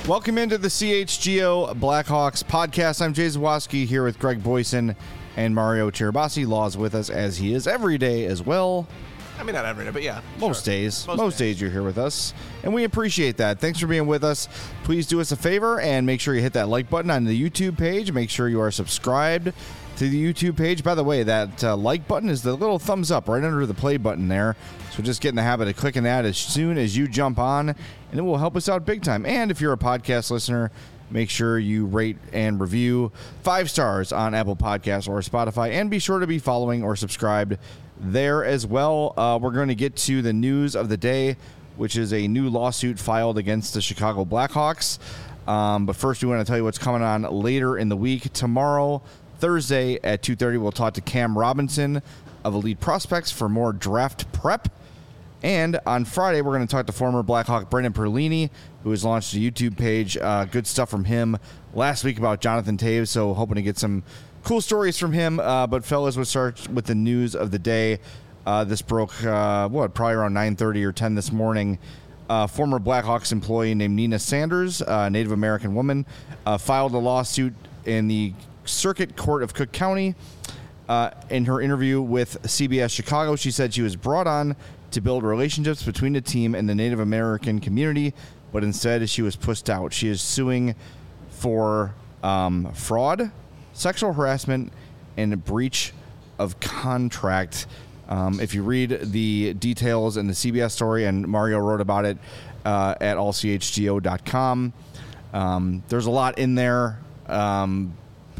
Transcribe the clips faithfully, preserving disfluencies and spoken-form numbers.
Welcome into the C H G O Blackhawks podcast. I'm Jay Zawoski here with Greg Boyson and Mario Cherabassi. Law's with us as he is every day as well. I mean, not every day, but yeah. Most sure. days. Most, Most days. days you're here with us, and we appreciate that. Thanks for being with us. Please do us a favor and make sure you hit that like button on the YouTube page. Make sure you are subscribed to the YouTube page. By the way, that uh, like button is the little thumbs up right under the play button there. So just get in the habit of clicking that as soon as you jump on, and it will help us out big time. And if you're a podcast listener, make sure you rate and review five stars on Apple Podcasts or Spotify, and be sure to be following or subscribed there as well. Uh, we're going to get to the news of the day, which is a new lawsuit filed against the Chicago Blackhawks. Um, but first, we want to tell you what's coming on later in the week. Tomorrow, Thursday at two thirty, we'll talk to Cam Robinson of Elite Prospects for more draft prep. And on Friday, we're going to talk to former Blackhawk Brendan Perlini, who has launched a YouTube page. Uh, good stuff from him last week about Jonathan Toews, so hoping to get some cool stories from him. Uh, but fellas, we'll start with the news of the day. Uh, this broke, uh, what, probably around nine thirty or ten this morning. Uh, former Blackhawks employee named Nina Sanders, a Native American woman, uh, filed a lawsuit in the Circuit Court of Cook County. Uh, in her interview with C B S Chicago, she said she was brought on to build relationships between the team and the Native American community, but instead she was pushed out. She is suing for um, fraud, sexual harassment, and a breach of contract. Um, if you read the details in the C B S story, and Mario wrote about it uh, at all c h g o dot com, um, there's a lot in there. Um,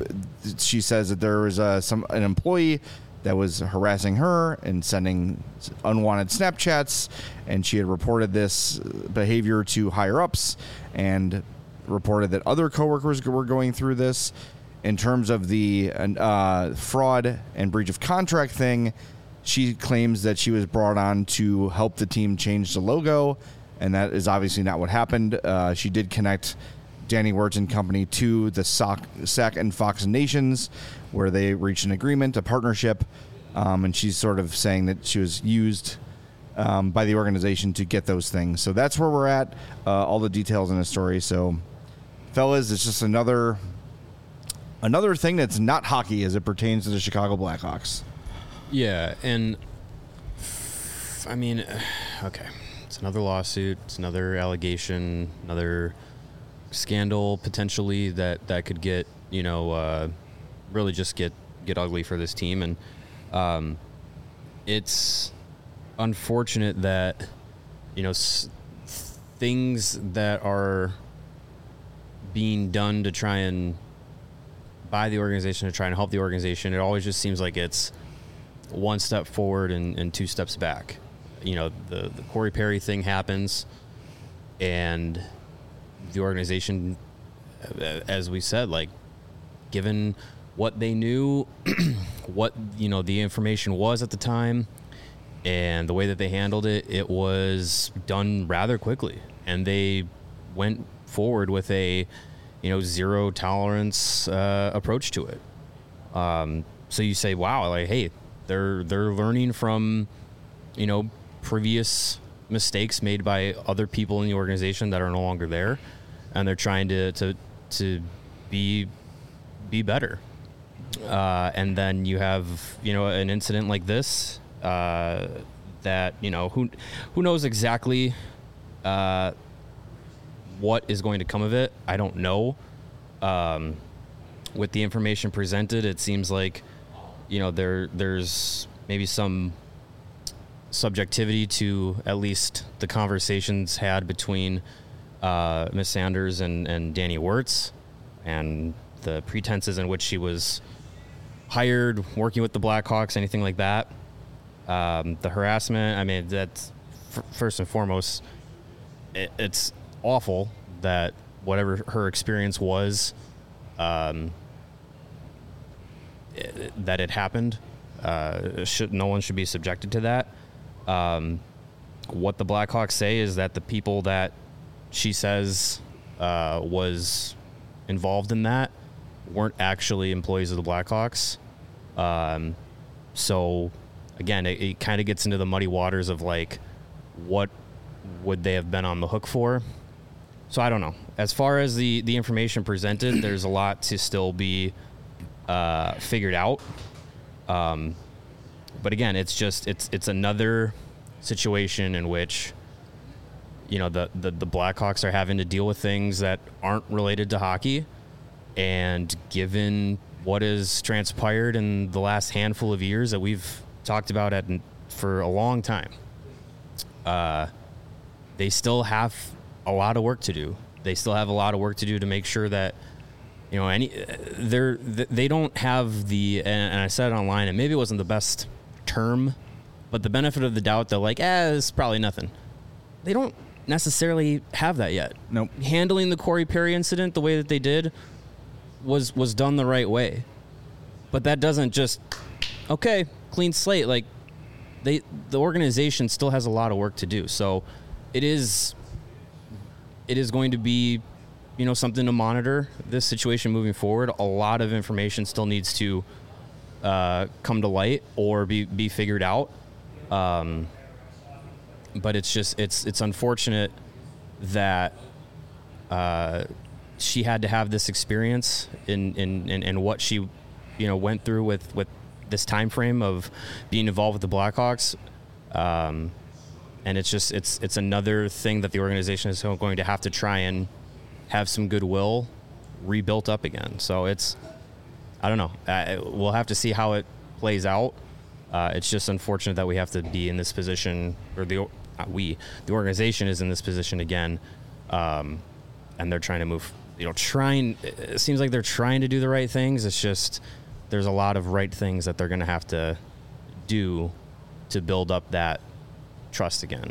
she says that there was uh, some an employee that was harassing her and sending unwanted Snapchats, and she had reported this behavior to higher-ups and reported that other coworkers were going through this. In terms of the uh, fraud and breach of contract thing, she claims that she was brought on to help the team change the logo, and that is obviously not what happened. Uh, she did connect Danny Wirtz and company to the S A C and Fox Nations, where they reached an agreement, a partnership, um, and she's sort of saying that she was used um, by the organization to get those things. So that's where we're at, uh, all the details in the story. So, fellas, it's just another another thing that's not hockey as it pertains to the Chicago Blackhawks. Yeah, and, I mean, okay, it's another lawsuit, it's another allegation, another scandal potentially that, that could get, you know, uh, really just get, get ugly for this team. And um, it's unfortunate that, you know, s- things that are being done to try and by the organization to try and help the organization, it always just seems like it's one step forward and, and two steps back. You know, the, the Corey Perry thing happens, and the organization, as we said, like, given what they knew, what, you know, the information was at the time, and the way that they handled it, it was done rather quickly. And they went forward with a, you know, zero tolerance uh, approach to it. Um, so you say, wow, like, hey, they're they're learning from, you know, previous mistakes made by other people in the organization that are no longer there, and they're trying to to to be be better. Uh, and then you have, you know, an incident like this uh, that, you know, who who knows exactly uh, what is going to come of it. I don't know. Um, with the information presented, it seems like, you know, there there's maybe some subjectivity to at least the conversations had between uh, Miss Sanders and, and Danny Wirtz, and the pretenses in which she was hired, working with the Blackhawks, anything like that. Um, the harassment, I mean, that's f- first and foremost, it, it's awful that whatever her experience was, um, it, that it happened. Uh, should no one should be subjected to that. Um, what the Blackhawks say is that the people that she says uh, was involved in that weren't actually employees of the Blackhawks. Um, so again, it, it kind of gets into the muddy waters of like, what would they have been on the hook for? So I don't know. as far as the, the information presented, there's a lot to still be uh, figured out. Um, but again, it's just it's it's another situation in which, you know, the, the, the Blackhawks are having to deal with things that aren't related to hockey. And given what has transpired in the last handful of years that we've talked about at, for a long time, uh, they still have a lot of work to do. They still have a lot of work to do to make sure that, you know, any they're they don't have the, and I said it online, and maybe it wasn't the best term, but the benefit of the doubt that, like, eh, it's probably nothing. They don't necessarily have that yet. Nope. Handling the Corey Perry incident the way that they did was was done the right way. But that doesn't just, okay, clean slate. Like, they the organization still has a lot of work to do. So it is it is going to be, you know, something to monitor this situation moving forward. A lot of information still needs to uh, come to light or be, be figured out. Um, but it's just it's it's unfortunate that uh, she had to have this experience in, in, in, in what she, you know, went through with, with this time frame of being involved with the Blackhawks. Um, and it's just it's it's another thing that the organization is going to have to try and have some goodwill rebuilt up again. So it's, I don't know. Uh, we'll have to see how it plays out. Uh, it's just unfortunate that we have to be in this position, or the not we, the organization is in this position again, um, and they're trying to move. You know, trying. It seems like they're trying to do the right things. It's just there's a lot of right things that they're going to have to do to build up that trust again.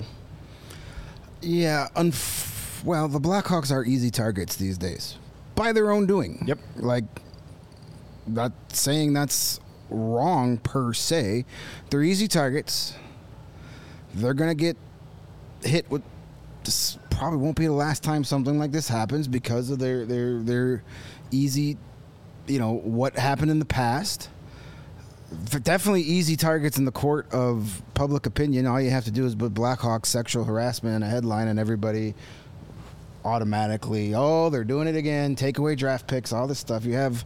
Yeah. Unf- well, the Blackhawks are easy targets these days by their own doing. Yep. Like, not saying that's wrong per se. They're easy targets. They're going to get hit with. This probably won't be the last time something like this happens because of their their their easy, you know, what happened in the past. For definitely easy targets in the court of public opinion. All you have to do is put Blackhawks sexual harassment in a headline, and everybody automatically, oh, they're doing it again. Take away draft picks, all this stuff. You have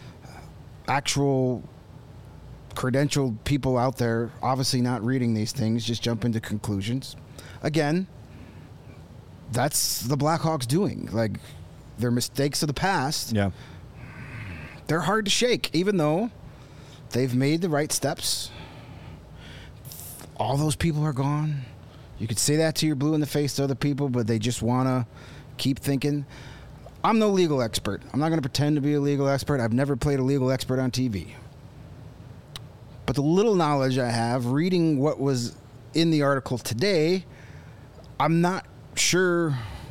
actual credentialed people out there, obviously not reading these things, just jump into conclusions. Again, that's the Blackhawks doing. Like, their mistakes of the past, Yeah. they're hard to shake, even though they've made the right steps. All those people are gone. You could say that to your blue in the face to other people, but they just want to keep thinking. I'm no legal expert. I'm not going to pretend to be a legal expert. I've never played a legal expert on T V. But the little knowledge I have, reading what was in the article today, I'm not sure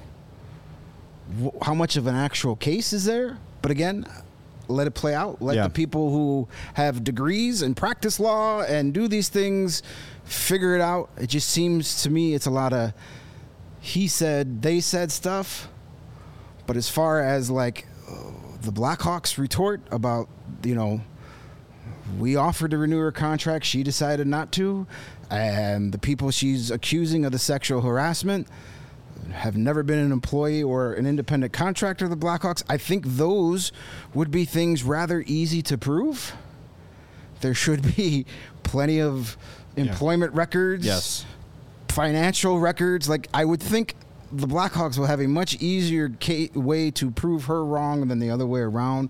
wh- how much of an actual case is there. But again, let it play out. Let Yeah. the people who have degrees and practice law and do these things figure it out. It just seems to me it's a lot of he said, they said stuff. But as far as like uh, the Blackhawks retort about, you know, we offered to renew her contract, she decided not to, and the people she's accusing of the sexual harassment have never been an employee or an independent contractor of the Blackhawks. I think those would be things rather easy to prove. There should be plenty of employment yeah. records, yes, financial records. Like, I would think the Blackhawks will have a much easier ca- way to prove her wrong than the other way around,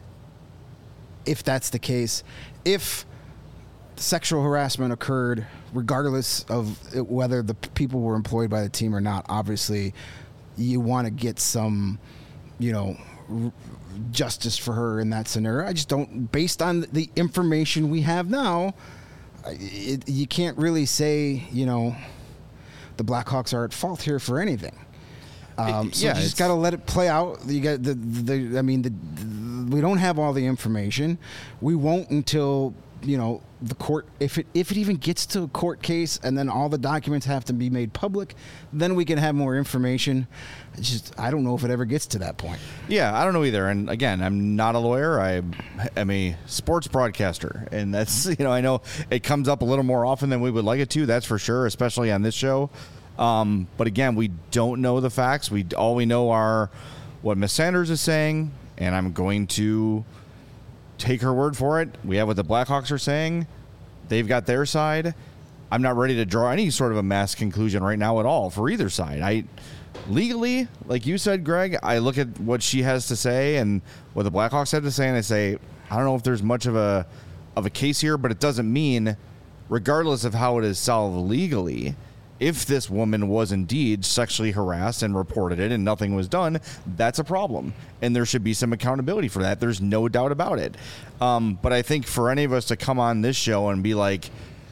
if that's the case. If sexual harassment occurred, regardless of it, whether the p- people were employed by the team or not, obviously you want to get some, you know, r- justice for her in that scenario. I just don't, based on the information we have now, it, you can't really say, you know, the Blackhawks are at fault here for anything. Um, so yeah, you just got to let it play out. You got the, the I mean, the, the, we don't have all the information. We won't until, you know, the court, if it if it even gets to a court case, and then all the documents have to be made public, then we can have more information. It's just, I don't know if it ever gets to that point. Yeah, I don't know either. And again, I'm not a lawyer. I am a sports broadcaster, and that's, you know, I know it comes up a little more often than we would like it to. That's for sure, especially on this show. Um, but again, we don't know the facts. We all we know are what Miss Sanders is saying, and I'm going to take her word for it. We have what the Blackhawks are saying. They've got their side. I'm not ready to draw any sort of a mass conclusion right now at all for either side. I legally, like you said, Greg, I look at what she has to say and what the Blackhawks have to say, and I say, I don't know if there's much of a of a case here, but it doesn't mean, regardless of how it is solved legally, if this woman was indeed sexually harassed and reported it and nothing was done, that's a problem. And there should be some accountability for that. There's no doubt about it. Um, but I think for any of us to come on this show and be like,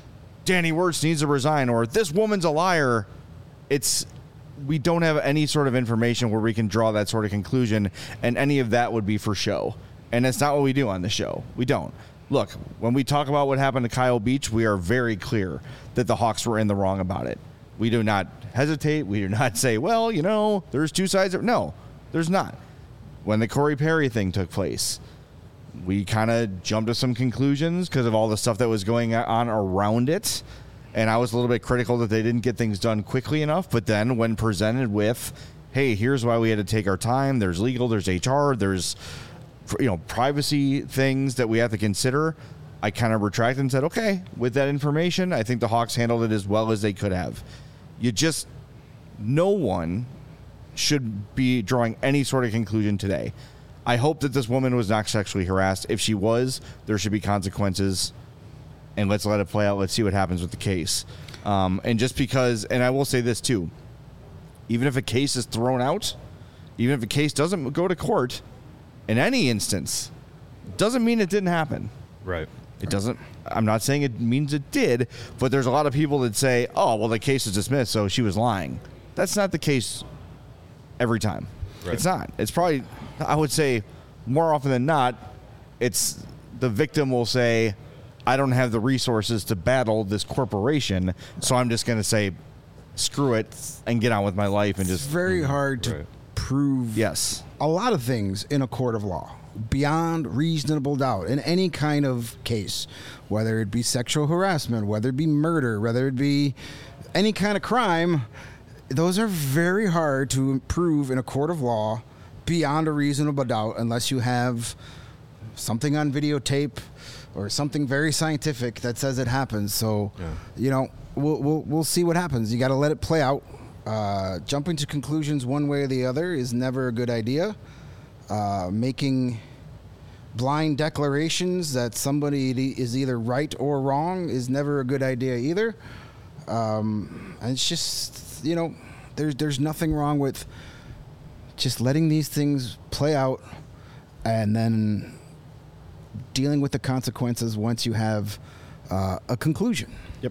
Danny Wirtz needs to resign, or this woman's a liar, it's we don't have any sort of information where we can draw that sort of conclusion, and any of that would be for show. And that's not what we do on the show. We don't. Look, when we talk about what happened to Kyle Beach, we are very clear that the Hawks were in the wrong about it. We do not hesitate. We do not say, well, you know, there's two sides. Of, no, there's not. When the Corey Perry thing took place, we kind of jumped to some conclusions because of all the stuff that was going on around it. And I was a little bit critical that they didn't get things done quickly enough. But then when presented with, hey, here's why we had to take our time. There's legal, there's H R, there's, you know, privacy things that we have to consider. I kind of retracted and said, okay, with that information, I think the Hawks handled it as well as they could have. You just, no one should be drawing any sort of conclusion today. I hope that this woman was not sexually harassed. If she was, there should be consequences, and let's let it play out. Let's see what happens with the case. Um, and just because, and I will say this too, even if a case is thrown out, even if a case doesn't go to court, in any instance, doesn't mean it didn't happen. Right. It doesn't, I'm not saying it means it did, but there's a lot of people that say, oh, well, the case is dismissed, so she was lying. That's not the case every time. Right. It's not. It's probably, I would say, more often than not, it's the victim will say, I don't have the resources to battle this corporation, so I'm just going to say, screw it, and get on with my life. And just It's very hard to right. prove yes. a lot of things in a court of law beyond reasonable doubt in any kind of case, whether it be sexual harassment, whether it be murder, whether it be any kind of crime. Those are very hard to prove in a court of law beyond a reasonable doubt unless you have something on videotape or something very scientific that says it happens. So, yeah. you know, we'll, we'll we'll see what happens. You got to let it play out. Uh, jumping to conclusions one way or the other is never a good idea. Uh, making blind declarations that somebody is either right or wrong is never a good idea either. Um, and it's just, you know, there's there's nothing wrong with just letting these things play out and then dealing with the consequences once you have uh, a conclusion. Yep.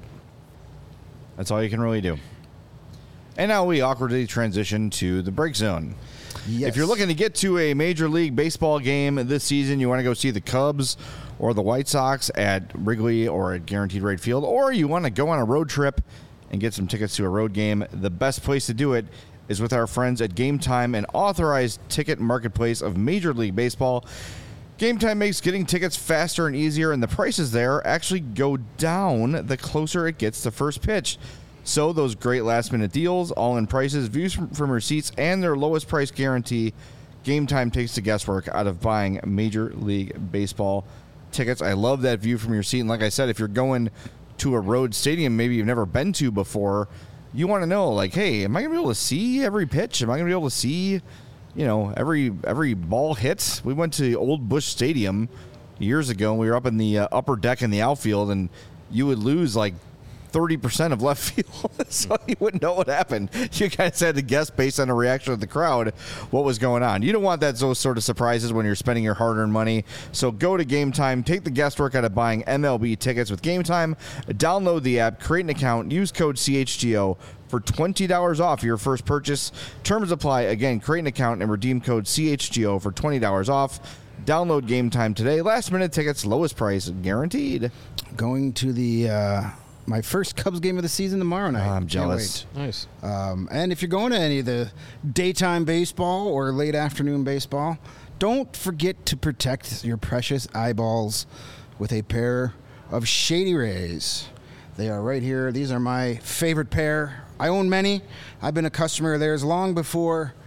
That's all you can really do. And now we awkwardly transition to the break zone. Yes. If you're looking to get to a Major League Baseball game this season, you want to go see the Cubs or the White Sox at Wrigley or at Guaranteed Rate Field, or you want to go on a road trip and get some tickets to a road game, the best place to do it is with our friends at Game Time, an authorized ticket marketplace of Major League Baseball. Game Time makes getting tickets faster and easier, and the prices there actually go down the closer it gets to first pitch. So those great last-minute deals, all-in prices, views from, from your seats, and their lowest price guarantee, Game Time takes the guesswork out of buying Major League Baseball tickets. I love that view from your seat. And like I said, if you're going to a road stadium maybe you've never been to before, you want to know, like, hey, am I going to be able to see every pitch? Am I going to be able to see, you know, every every ball hit? We went to Old Busch Stadium years ago, and we were up in the uh, upper deck in the outfield, and you would lose, like, thirty percent of left field, so you wouldn't know what happened. You guys had to guess based on the reaction of the crowd what was going on. You don't want that those sort of surprises when you're spending your hard-earned money. So go to Game Time, take the guesswork out of buying M L B tickets with Game Time. Download the app, create an account, use code C H G O for twenty dollars off your first purchase. Terms apply. Again, create an account and redeem code C H G O for twenty dollars off. Download Game Time today. Last-minute tickets, lowest price guaranteed. Going to the... Uh my first Cubs game of the season tomorrow night. Oh, I'm jealous. Nice. Um, and if you're going to any of the daytime baseball or late afternoon baseball, don't forget to protect your precious eyeballs with a pair of Shady Rays. They are right here. These are my favorite pair. I own many. I've been a customer of theirs long before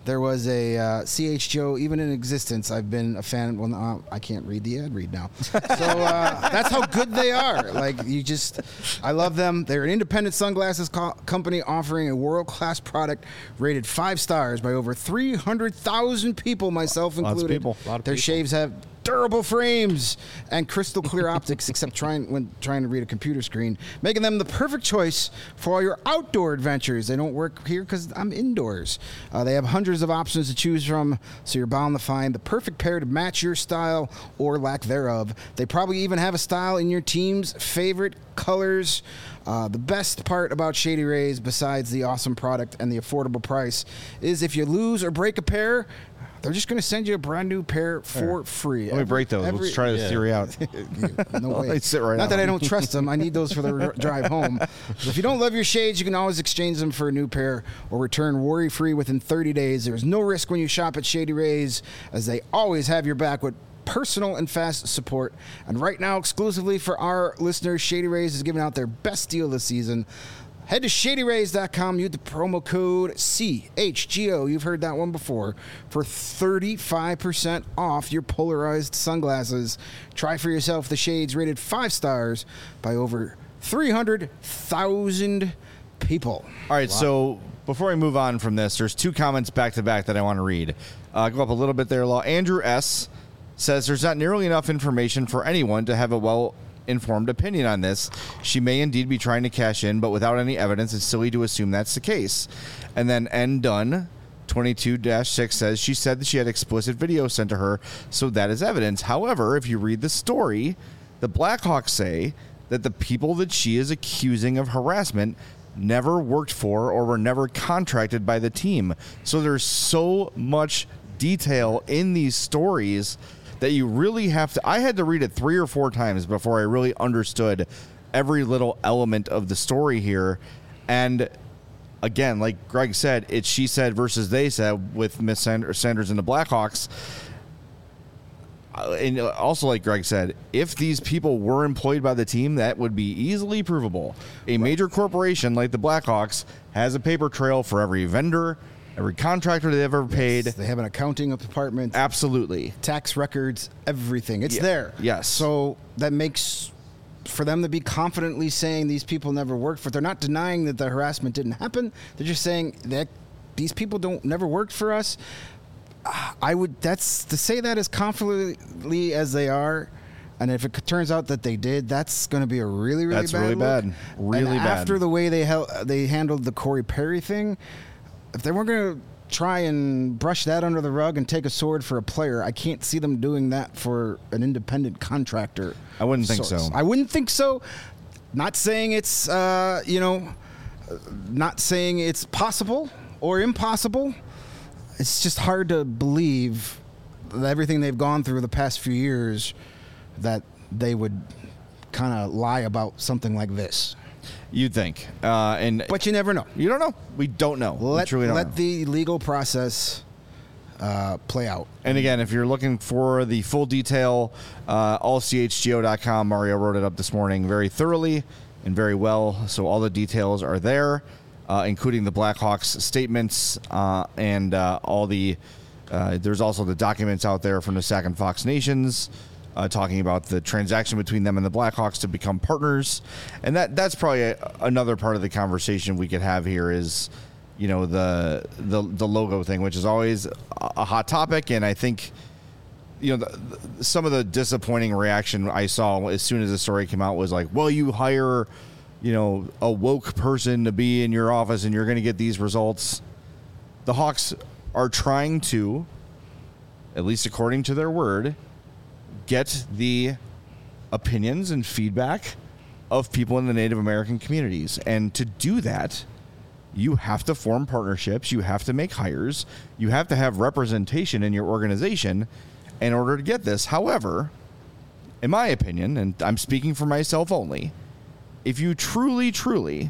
there was a uh, C H G O, even in existence. I've been a fan. Well, no, I can't read the ad read now. So uh, that's how good they are. Like, you just, I love them. They're an independent sunglasses co- company offering a world-class product rated five stars by over three hundred thousand people, myself Lots of included. people. A lot of Their people. shaves have durable frames and crystal clear optics, except trying when trying to read a computer screen, making them the perfect choice for all your outdoor adventures. They don't work here because I'm indoors. Uh, they have hundreds of options to choose from, so you're bound to find the perfect pair to match your style or lack thereof. They probably even have a style in your team's favorite colors. Uh, the best part about Shady Rays, besides the awesome product and the affordable price, is if you lose or break a pair, they're just going to send you a brand new pair for free. Let me break those. Every- Let's try this yeah. theory out. No way. They sit right Not on that I them. don't trust them. I need those for the r- drive home. So if you don't love your shades, you can always exchange them for a new pair or return worry-free within thirty days. There's no risk when you shop at Shady Rays, as they always have your back with personal and fast support. And right now, exclusively for our listeners, Shady Rays is giving out their best deal this season. Head to shady rays dot com, use the promo code C H G O, you've heard that one before, for thirty-five percent off your polarized sunglasses. Try for yourself the shades rated five stars by over three hundred thousand people. All right, so before we move on from this, there's two comments back to back that I want to read. Uh, go up a little bit there, Law. Andrew S. says there's not nearly enough information for anyone to have a well-informed opinion on this. She may indeed be trying to cash in, but without any evidence, it's silly to assume that's the case. And then N. Dunn, twenty-two dash six, says she said that she had explicit video sent to her, so that is evidence. However, if you read the story, the Blackhawks say that the people that she is accusing of harassment never worked for or were never contracted by the team. So there's so much detail in these stories that you really have to... I had to read it three or four times before I really understood every little element of the story here. And again, like Greg said, it's she said versus they said with Miss Sanders and the Blackhawks. Uh, And also, like Greg said, if these people were employed by the team, that would be easily provable. A major corporation like the Blackhawks has a paper trail for every vendor, every contractor they've ever paid. They have an accounting department, Absolutely. tax records, everything. It's Yeah. there. Yes. So that makes... for them to be confidently saying these people never worked for, they're not denying that the harassment didn't happen. They're just saying that these people don't never worked for us. I would, that's to say that as confidently as they are. And if it turns out that they did, that's going to be a really, really That's bad really look. bad. Really and bad. After the way they hel- they handled the Corey Perry thing, if they weren't going to try and brush that under the rug and take a sword for a player, I can't see them doing that for an independent contractor. I wouldn't think sorts. so. I wouldn't think so. Not saying it's, uh, you know, not saying it's possible or impossible. It's just hard to believe that everything they've gone through the past few years that they would kind of lie about something like this. You'd think. Uh, and But you never know. you don't know. We don't know. we Let, truly don't let know. the legal process uh, play out. And again, if you're looking for the full detail, uh, all C H G O dot com. Mario wrote it up this morning very thoroughly and very well. So all the details are there, uh, including the Blackhawks statements uh, and uh, all the. Uh, there's also the documents out there from the Sac and Fox Nations uh, talking about the transaction between them and the Blackhawks to become partners, and that that's probably a, another part of the conversation we could have here is. You know, the the the logo thing, which is always a, a hot topic, and I think, you know, the, the, some of the disappointing reaction I saw as soon as the story came out was like, well, you hire, you know, a woke person to be in your office and you're going to get these results. The Hawks are trying to, at least according to their word, get the opinions and feedback of people in the Native American communities. And to do that, you have to form partnerships, you have to make hires, you have to have representation in your organization in order to get this. However, in my opinion, and I'm speaking for myself only, if you truly, truly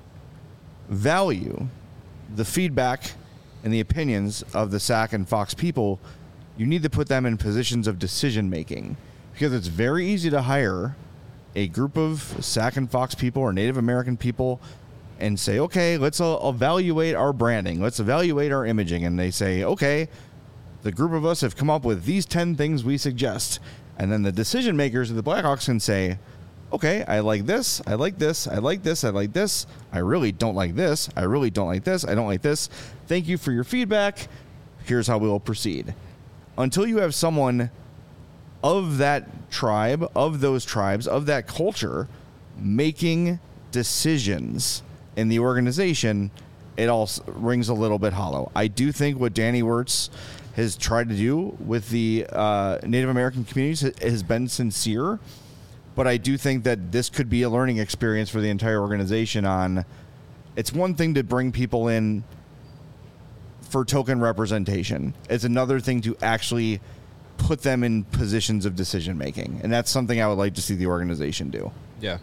value the feedback and the opinions of the Sac and Fox people, you need to put them in positions of decision making, because it's very easy to hire a group of Sac and Fox people or Native American people and say, okay, let's uh, evaluate our branding. Let's evaluate our imaging. And they say, okay, the group of us have come up with these ten things we suggest. And then the decision makers of the Blackhawks can say, okay, I like this, I like this, I like this, I like this. I really don't like this. I really don't like this. I don't like this. Thank you for your feedback. Here's how we will proceed. Until you have someone of that tribe, of those tribes, of that culture, making decisions in the organization, it all rings a little bit hollow. I do think what Danny Wirtz has tried to do with the uh, Native American communities has been sincere, but I do think that this could be a learning experience for the entire organization. On, it's one thing to bring people in for token representation. It's another thing to actually put them in positions of decision making, and that's something I would like to see the organization do. Yeah.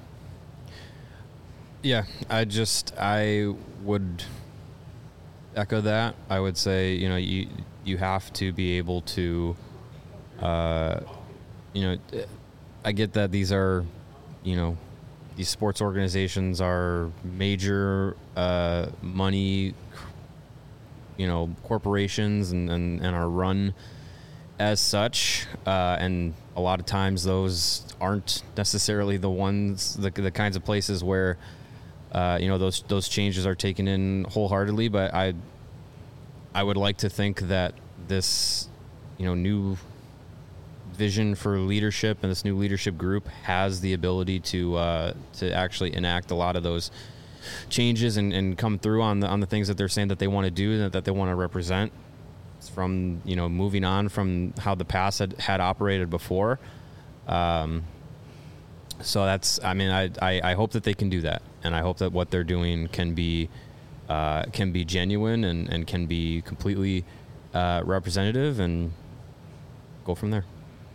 Yeah, I just I would echo that. I would say, you know, you you have to be able to, uh, you know, I get that these are, you know, these sports organizations are major uh, money, you know, corporations and, and, and are run as such, uh, and a lot of times those aren't necessarily the ones, the, the kinds of places where, uh, you know, those those changes are taken in wholeheartedly. But I, I would like to think that this, you know, new vision for leadership and this new leadership group has the ability to uh, to actually enact a lot of those changes and, and come through on the on the things that they're saying that they want to do and that they want to represent. From, you know, moving on from how the past had, had operated before. Um, so that's, I mean, I, I, I hope that they can do that. And I hope that what they're doing can be, uh, can be genuine and, and can be completely uh, representative, and go from there.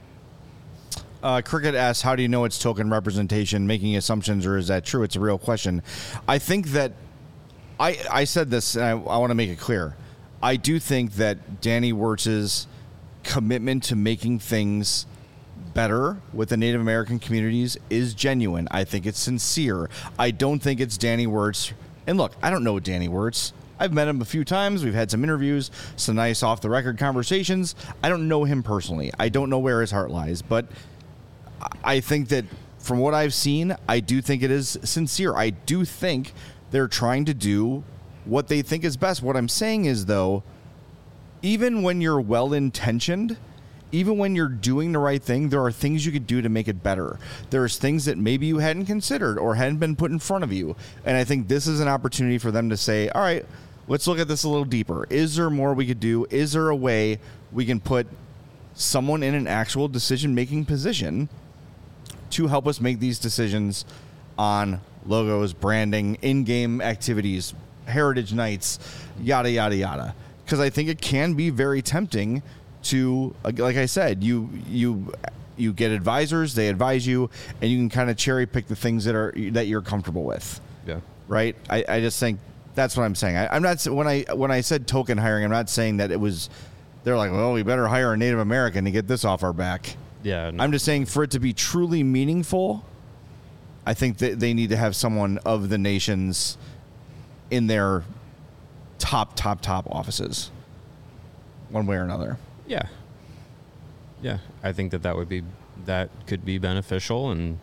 Uh, Cricket asks, how do you know it's token representation, making assumptions, or is that true? It's a real question. I think that, I, I said this, and I, I want to make it clear. I do think that Danny Wirtz's commitment to making things better with the Native American communities is genuine. I think it's sincere. I don't think it's Danny Wirtz. And look, I don't know Danny Wirtz. I've met him a few times. We've had some interviews, some nice off-the-record conversations. I don't know him personally. I don't know where his heart lies. But I think that from what I've seen, I do think it is sincere. I do think they're trying to do what they think is best. What I'm saying is, though, even when you're well-intentioned, even when you're doing the right thing, there are things you could do to make it better. There's things that maybe you hadn't considered or hadn't been put in front of you. And I think this is an opportunity for them to say, all right, let's look at this a little deeper. Is there more we could do? Is there a way we can put someone in an actual decision-making position to help us make these decisions on logos, branding, in-game activities, heritage nights, yada, yada, yada. Because I think it can be very tempting to, like I said, you you you get advisors, they advise you, and you can kind of cherry pick the things that are that you're comfortable with. Yeah. Right? I, I just think that's what I'm saying. I, I'm not when I when I said token hiring, I'm not saying that it was they're like, well, we better hire a Native American to get this off our back. Yeah. No. I'm just saying, for it to be truly meaningful, I think that they need to have someone of the nations in their top, top, top offices, one way or another. Yeah. Yeah. I think that that would be, that could be beneficial, and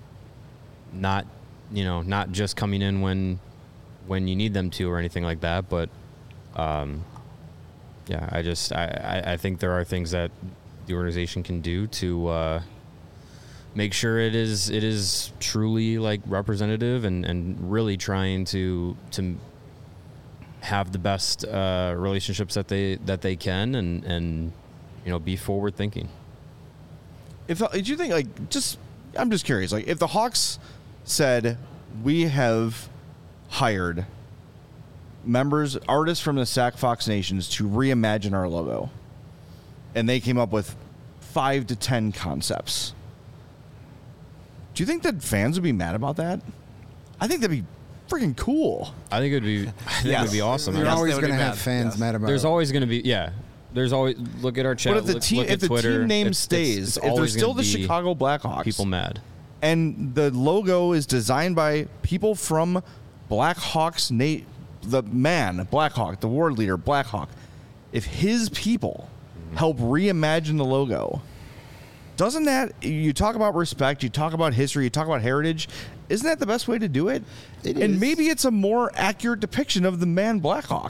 not, you know, not just coming in when, when you need them to or anything like that. But, um, yeah, I just, I, I, I think there are things that the organization can do to, uh, make sure it is it is truly like representative, and, and really trying to to have the best uh, relationships that they that they can, and, and you know, be forward thinking. If did you think like just I'm just curious, like if the Hawks said, we have hired members, artists from the Sac Fox Nations to reimagine our logo, and they came up with five to ten concepts, do you think that fans would be mad about that? I think that'd be freaking cool. I think it would be. I think Yes. it would be awesome. You're Yes, always they would going to be have mad. fans Yes. mad about There's it. always going to be. Yeah. There's always look at our chat. But if the look, team, look if at the Twitter, team name it's- stays, it's, it's if they're always still gonna the be Chicago Blackhawks, people mad. and the logo is designed by people from Blackhawks, Nate, the man, Blackhawk, the war leader, Blackhawk, if his people help reimagine the logo, doesn't that, you talk about respect, you talk about history, you talk about heritage, isn't that the best way to do it? It and is. maybe it's a more accurate depiction of the man Blackhawk.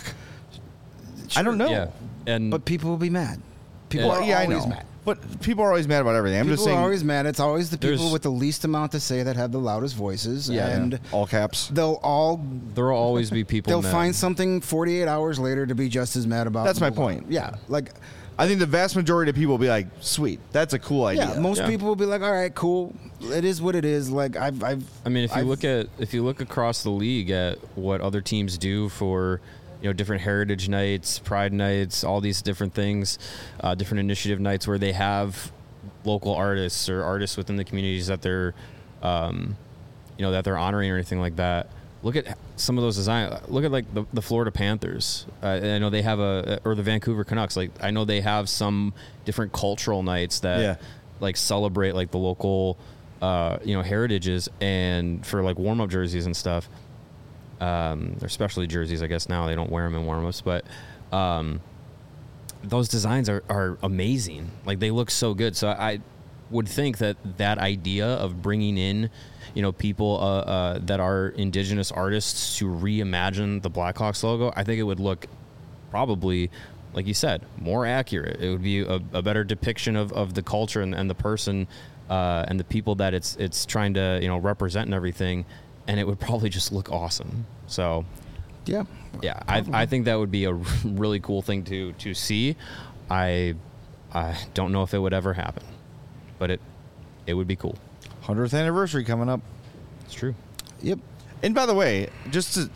I don't know. Yeah. And But people will be mad. People Well, are yeah, I always know. mad. But people are always mad about everything. I'm People just saying. are always mad. It's always the people There's- with the least amount to say that have the loudest voices. yeah, and all caps. they'll all there will always be people. they'll mad. find something forty-eight hours later to be just as mad about. That's my the law. point. Yeah, like I think the vast majority of people will be like, "Sweet, that's a cool idea." yeah, most Yeah. people will be like, all right, cool. It is what it is. Like I've, I've. I mean, if you I've- look at if you look across the league at what other teams do for, you know, different heritage nights, pride nights, all these different things, uh, different initiative nights where they have local artists or artists within the communities that they're, um, you know, that they're honoring or anything like that. Look at some of those designs. Look at like the, the Florida Panthers. Uh, I know they have a, or the Vancouver Canucks. Like I know they have some different cultural nights that Yeah. like celebrate like the local, uh, you know, heritages and for like warm up jerseys and stuff. Um, they're specialty jerseys, I guess now they don't wear them in warm ups, but um, those designs are, are amazing. Like they look so good. So I would think that that idea of bringing in, you know, people uh, uh, that are indigenous artists to reimagine the Blackhawks logo, I think it would look probably, like you said, more accurate. It would be a, a better depiction of, of the culture and, and the person uh, and the people that it's it's trying to, you know, represent and everything, and it would probably just look awesome. So yeah, yeah, I, I think that would be a really cool thing to to see. I I don't know if it would ever happen, but it it would be cool. hundredth anniversary coming up. It's true. yep. And by the way, just to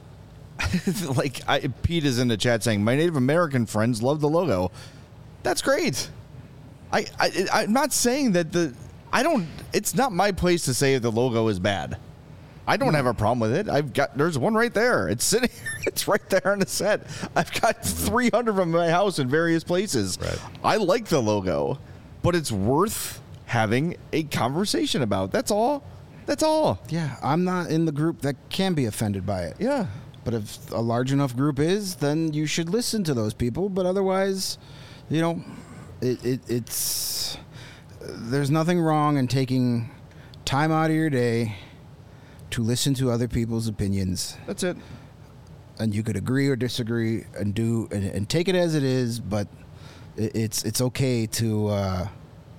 like, I, Pete is in the chat saying my Native American friends love the logo. That's great. I, I I'm not saying that the I don't. It's not my place to say if the logo is bad. I don't have a problem with it. I've got there's one right there. It's sitting. It's right there on the set. I've got three hundred of them in my house in various places. Right. I like the logo, but it's worth having a conversation about. That's all. That's all. Yeah, I'm not in the group that can be offended by it. Yeah. But if a large enough group is, then you should listen to those people. But otherwise, you know, it, it, it's there's nothing wrong in taking time out of your day to listen to other people's opinions. That's it. And you could agree or disagree and do and, and take it as it is. But it, it's it's okay to uh,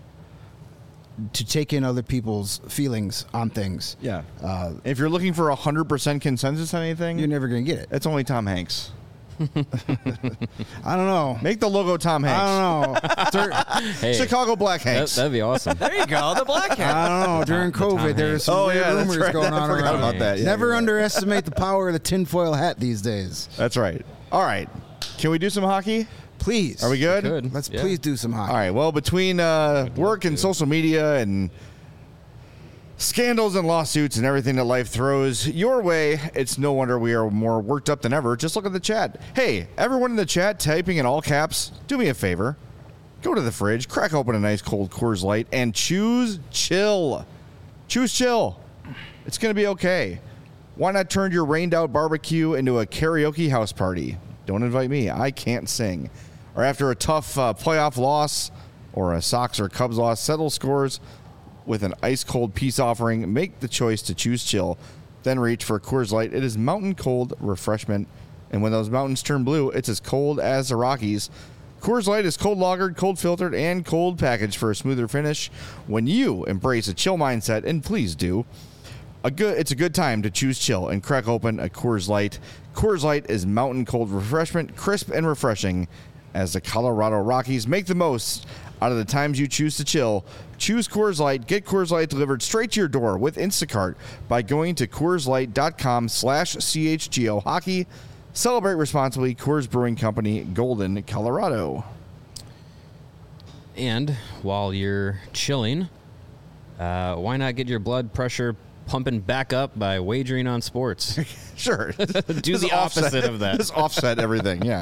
to take in other people's feelings on things. Yeah. Uh, If you're looking for a hundred percent consensus on anything, you're never gonna get it. it's only Tom Hanks. I don't know. Make the logo Tom Hanks. I don't know. Dur- Hey, Chicago Black that, Hanks. that'd be awesome. There you go, the black hat. I don't know. During The Tom COVID, there were Hanks. some Oh, weird yeah, that's rumors right. going I on forgot around. about that. Yeah, Never you're right. underestimate the power of the tinfoil hat these days. That's right. All right. Can we do some hockey? Please. Are we good? Good. Let's Yeah. please do some hockey. All right. Well, between uh, work and to. social media and scandals and lawsuits and everything that life throws your way, it's no wonder we are more worked up than ever. Just look at the chat. Hey, everyone in the chat typing in all caps, do me a favor. Go to the fridge, crack open a nice cold Coors Light, and choose chill. Choose chill. It's going to be okay. Why not turn your rained out barbecue into a karaoke house party? Don't invite me. I can't sing. Or after a tough uh, playoff loss or a Sox or Cubs loss, settle scores with an ice-cold peace offering. Make the choice to choose chill. Then reach for Coors Light. It is mountain cold refreshment. And when those mountains turn blue, it's as cold as the Rockies. Coors Light is cold lagered, cold filtered, and cold packaged for a smoother finish. When you embrace a chill mindset, and please do, a good it's a good time to choose chill and crack open a Coors Light. Coors Light is mountain cold refreshment, crisp and refreshing as the Colorado Rockies make the most out of the times you choose to chill. Choose Coors Light. Get Coors Light delivered straight to your door with Instacart by going to CoorsLight.com slash CHGO Hockey. Celebrate responsibly. Coors Brewing Company, Golden, Colorado. And while you're chilling, uh, why not get your blood pressure pumping back up by wagering on sports? Sure. Do the opposite of that. Just offset everything, yeah.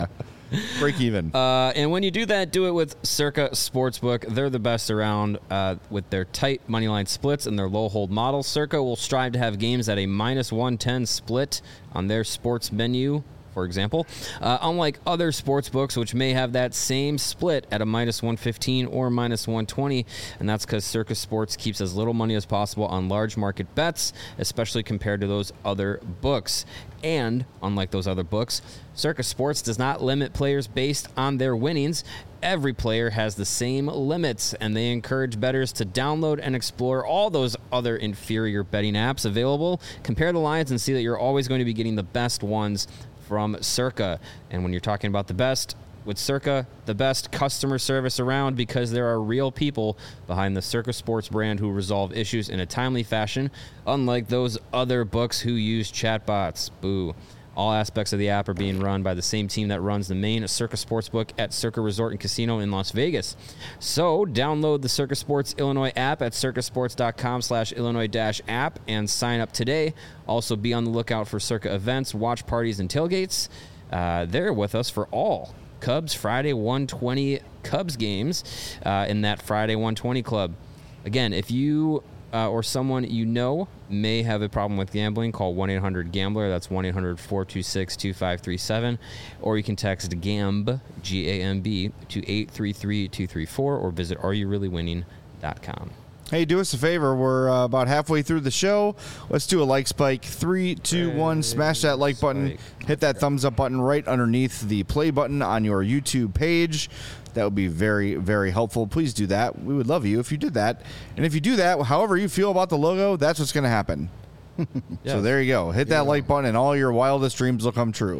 Break even. Uh, and when you do that, do it with Circa Sportsbook. They're the best around uh, with their tight moneyline splits and their low hold model. Circa will strive to have games at a minus one ten split on their sports menu, for example, uh, unlike other sports books, which may have that same split at a minus one fifteen or minus one twenty, and that's because Circa Sports keeps as little money as possible on large market bets, especially compared to those other books. And unlike those other books, Circa Sports does not limit players based on their winnings. Every player has the same limits, and they encourage bettors to download and explore all those other inferior betting apps available. Compare the lines and see that you're always going to be getting the best ones from Circa. And when you're talking about the best, with Circa, the best customer service around, because there are real people behind the Circa Sports brand who resolve issues in a timely fashion, unlike those other books who use chatbots. Boo. All aspects of the app are being run by the same team that runs the main Circa Sportsbook at Circa Resort and Casino in Las Vegas. So download the Circa Sports Illinois app at circasports.com slash Illinois dash app and sign up today. Also be on the lookout for Circa events, watch parties, and tailgates. Uh, they're with us for all Cubs Friday one twenty Cubs games uh, in that Friday one twenty club. Again, if you uh, or someone you know may have a problem with gambling, call one eight hundred gambler. That's one eight hundred four two six two five three seven. Or you can text GAMB, G A M B, to eight three three two three four or visit are you really winning dot com. Hey, do us a favor. We're uh, about halfway through the show. Let's do a like spike. Three, two, one. Smash that like button. Hit that thumbs up button right underneath the play button on your YouTube page. That would be very, very helpful. Please do that. We would love you if you did that. And if you do that, however you feel about the logo, that's what's going to happen. Yes. So there you go. Hit that yeah. like button, and all your wildest dreams will come true.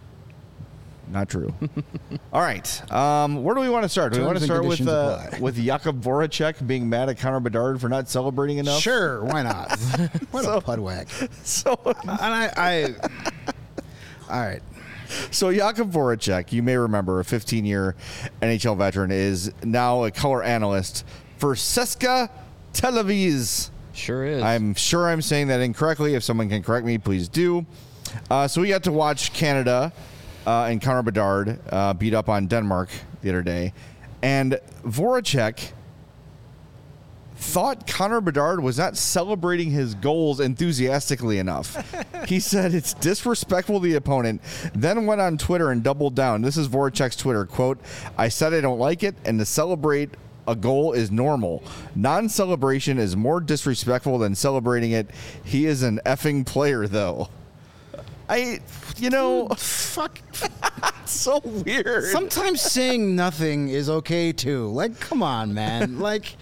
Not true. All right. Um, where do we want to start? Do we want to start with uh, with Jakub Voracek being mad at Connor Bedard for not celebrating enough? Sure, why not? What so, a pudwhack. So, and I, I, all right. So Jakub Voracek, you may remember, a fifteen-year N H L veteran, is now a color analyst for CSKA Tel Aviv. Sure is. I'm sure I'm saying that incorrectly. If someone can correct me, please do. Uh, so we got to watch Canada uh, and Connor Bedard uh, beat up on Denmark the other day. And Voracek thought Connor Bedard was not celebrating his goals enthusiastically enough. He said it's disrespectful to the opponent, then went on Twitter and doubled down. This is Voracek's Twitter, quote, "I said I don't like it, and to celebrate a goal is normal. Non-celebration is more disrespectful than celebrating it. He is an effing player, though." I, you know, fuck. So weird. Sometimes saying nothing is okay, too. Like, come on, man. Like...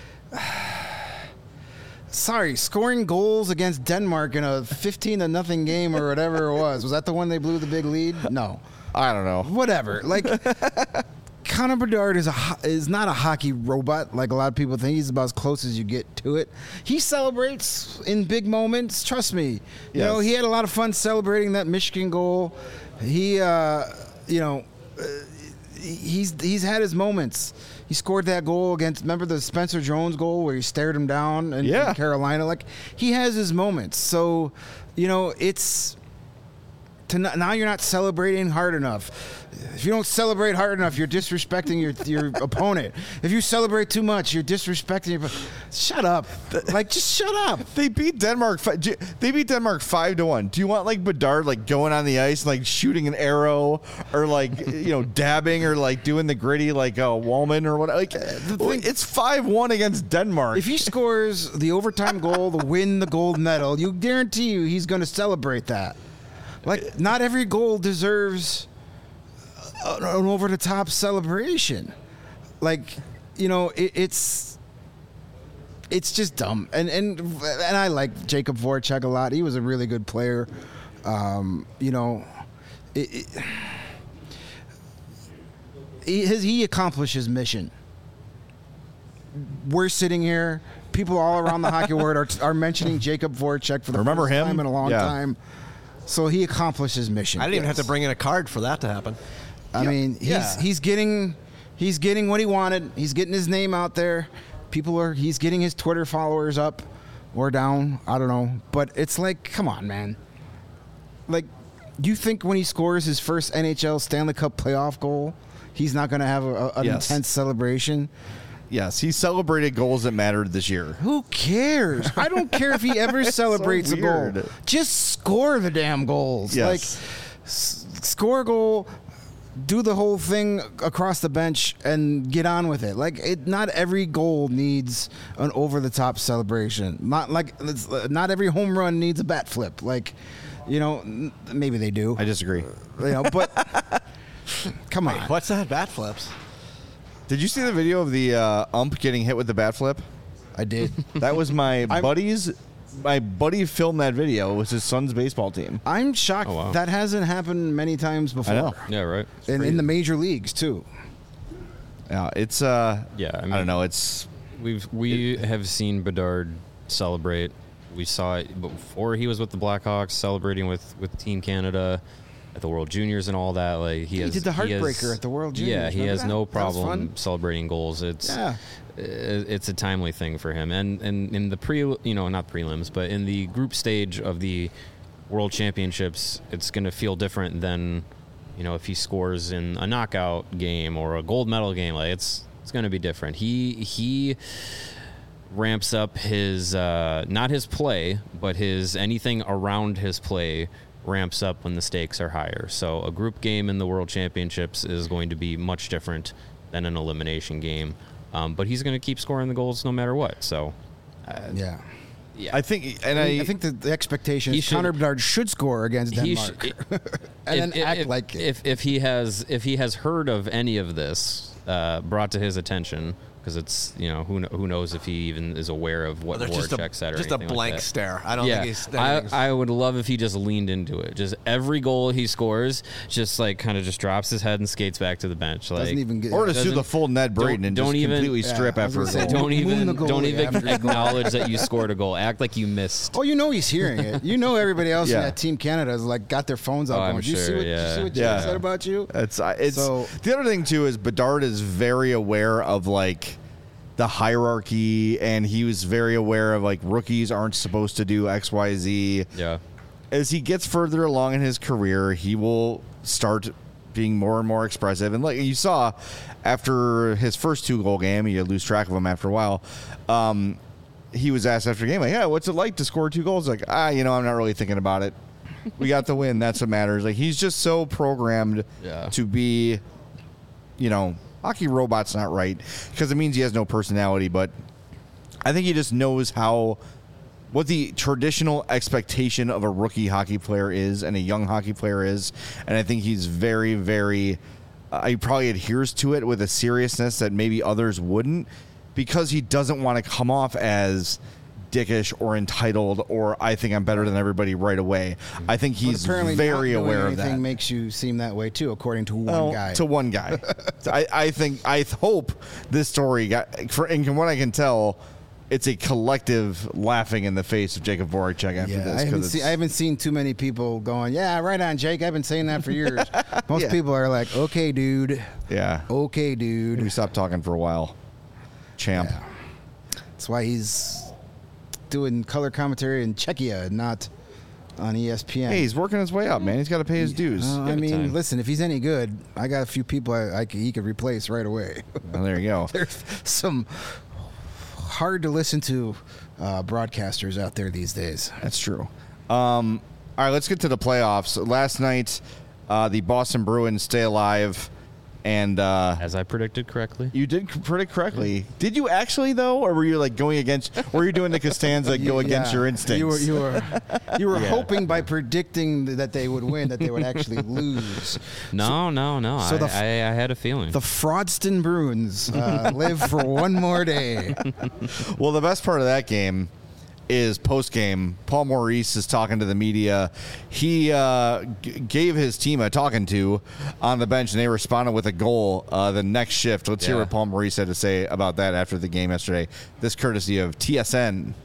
Sorry, scoring goals against Denmark in a fifteen to nothing game or whatever it was. Was that the one they blew the big lead? No. I don't know. Whatever. Like, Connor Bedard is a is not a hockey robot like a lot of people think. He's about as close as you get to it. He celebrates in big moments. Trust me. You yes. know, he had a lot of fun celebrating that Michigan goal. He, uh, you know, uh, he's he's had his moments. He scored that goal against, remember the Spencer Jones goal where he stared him down in, yeah. in Carolina? Like, he has his moments. So, you know, it's, to not, now you're not celebrating hard enough. If you don't celebrate hard enough, you're disrespecting your your opponent. If you celebrate too much, you're disrespecting your. Shut up! Like, just shut up. They beat Denmark. They beat Denmark five to one. Do you want like Bedard like going on the ice and like shooting an arrow or like you know dabbing or like doing the gritty like a uh, Wallman or what? Like the thing, it's five one against Denmark. If he scores the overtime goal to win the gold medal, you guarantee you he's going to celebrate that. Like, not every goal deserves an over-the-top celebration. Like, you know, it, it's it's just dumb. And and and I like Jakub Voracek a lot. He was a really good player. Um, you know, it, it, he, his, he accomplished his mission. We're sitting here. People all around the hockey world are, are mentioning Jakub Voracek for the Remember first him? time in a long yeah. time. So he accomplished his mission. I didn't yes. even have to bring in a card for that to happen. I yep. mean, he's yeah. he's getting he's getting what he wanted. He's getting his name out there. People are he's getting his Twitter followers up or down. I don't know, but it's like, come on, man. Like, You think when he scores his first N H L Stanley Cup playoff goal, he's not going to have a, a, an Yes. intense celebration? Yes, he celebrated goals that mattered this year. Who cares? I don't care if he ever celebrates a goal. weird. Just score the damn goals. Yes. Like, s- score a goal, do the whole thing across the bench, and get on with it. Like, it, not every goal needs an over-the-top celebration. Not like it's, uh, not every home run needs a bat flip. Like, you know, n- maybe they do. I disagree. You know, but come on. What's that? Bat flips. Did you see the video of the uh, ump getting hit with the bat flip? I did. That was my I'm- buddy's. My buddy filmed that video. It was his son's baseball team. I'm shocked Oh, wow. that hasn't happened many times before. I know. Yeah, right. In, in the major leagues too. Yeah, it's. Uh, Yeah, I I, mean- don't know. It's. We've we have seen Bedard celebrate. We saw it before he was with the Blackhawks, celebrating with, with Team Canada at the World Juniors and all that. Like he, He has, did the he has- heartbreaker at the World Juniors. Yeah, he Remember has that? no That was problem fun. celebrating goals. It's Yeah. i- it's a timely thing for him. And and in the pre, you know, not prelims, but in the group stage of the World Championships, it's going to feel different than, you know, if he scores in a knockout game or a gold medal game. Like it's it's going to be different. He he ramps up his uh, not his play, but his anything around his play ramps up when the stakes are higher. So a group game in the World Championships is going to be much different than an elimination game. Um, but he's going to keep scoring the goals no matter what. So Yeah. yeah, I think, and I, I. mean, I think the, the expectation He is should- Connor Bedard should score against he Denmark, should, and then if, act if, like it. if if he has if he has heard of any of this uh, brought to his attention, because it's, you know, who kn- who knows if he even is aware of what There's just a, Voracek said or just a anything like blank that. stare. I don't Yeah, think he's. I, anything's- I would love if he just leaned into it. Just every goal he scores, just like kind of just drops his head and skates back to the bench. Like, Doesn't even get. or to do doesn't- the full Ned Braden don't- and don't just even- completely Yeah, strip I was after a gonna say, goal. don't Moon even the goalie don't even after his goal. acknowledge that you scored a goal. Act like you missed. Oh, you know he's hearing it. You know everybody else Yeah. in that Team Canada has like got their phones out. Oh, I'm going, Did you see sure, what, did you yeah. see what Jake Yeah. said about you? It's I- it's So- the other thing too is Bedard is very aware of like the hierarchy, and he was very aware of like rookies aren't supposed to do X Y Z. Yeah. As he gets further along in his career, he will start being more and more expressive. And like you saw after his first two goal game, you lose track of him after a while. Um, he was asked after the game, like, yeah, what's it like to score two goals? Like, ah, you know, I'm not really thinking about it. We got the win. That's what matters. Like, he's just so programmed Yeah. to be, you know, hockey robot's not right because it means he has no personality, but I think he just knows how what the traditional expectation of a rookie hockey player is and a young hockey player is, and I think he's very, very. Uh, he probably adheres to it with a seriousness that maybe others wouldn't, because he doesn't want to come off as dickish or entitled or I think I'm better than everybody right away. I think But he's apparently very not doing aware of anything that. makes you seem that way too, according to one Well, guy. To one guy. I, I think, I hope this story got, for, and from what I can tell, it's a collective laughing in the face of Jacob Voracek after yeah, this. I haven't, 'cause seen, it's- I haven't seen too many people going, yeah, right on, Jake. I've been saying that for years. Most Yeah. people are like, okay, dude. yeah. Okay, dude. We stopped talking for a while. Champ. Yeah. That's why he's doing color commentary in Czechia, not on E S P N. Hey, he's working his way up, man. He's got to pay his dues. Uh, I Give it mean, time. listen, if he's any good, I got a few people I, I could, he could replace right away. Well, there you go. There's some hard to listen to uh, broadcasters out there these days. That's true. Um, all right, let's get to the playoffs. Last night, uh, the Boston Bruins stay alive, and uh, As I predicted correctly. you did c- predict correctly. Did you actually though, or were you like going against? Were you doing the Costanza go against Yeah. your instincts? You were you were you were Yeah. hoping by predicting that they would win that they would actually lose. No, no, no. so I, the f- I, I had a feeling. The Fraudston Bruins uh, live for one more day. Well, the best part of that game is post game. Paul Maurice is talking to the media. He uh, g- gave his team a talking to on the bench, and they responded with a goal uh, the next shift. Let's hear Yeah. what Paul Maurice had to say about that after the game yesterday. This courtesy of T S N.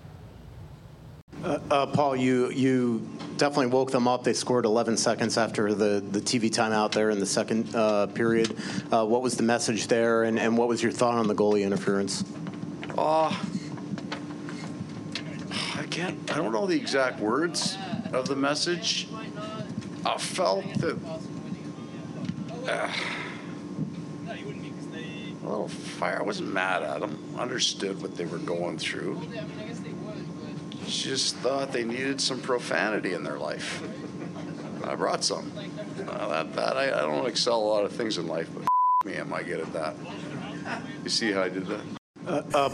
Uh, uh, Paul, you you definitely woke them up. They scored eleven seconds after the, the T V timeout there in the second uh, period. Uh, what was the message there, and, and what was your thought on the goalie interference? Uh, I can't, I don't know the exact words of the message. I felt that uh, a little fire. I wasn't mad at them. Understood what they were going through. Just thought they needed some profanity in their life. I brought some. Uh, that, that I, I don't excel a lot of things in life, but me, am I good at that? You see how I did that? Uh,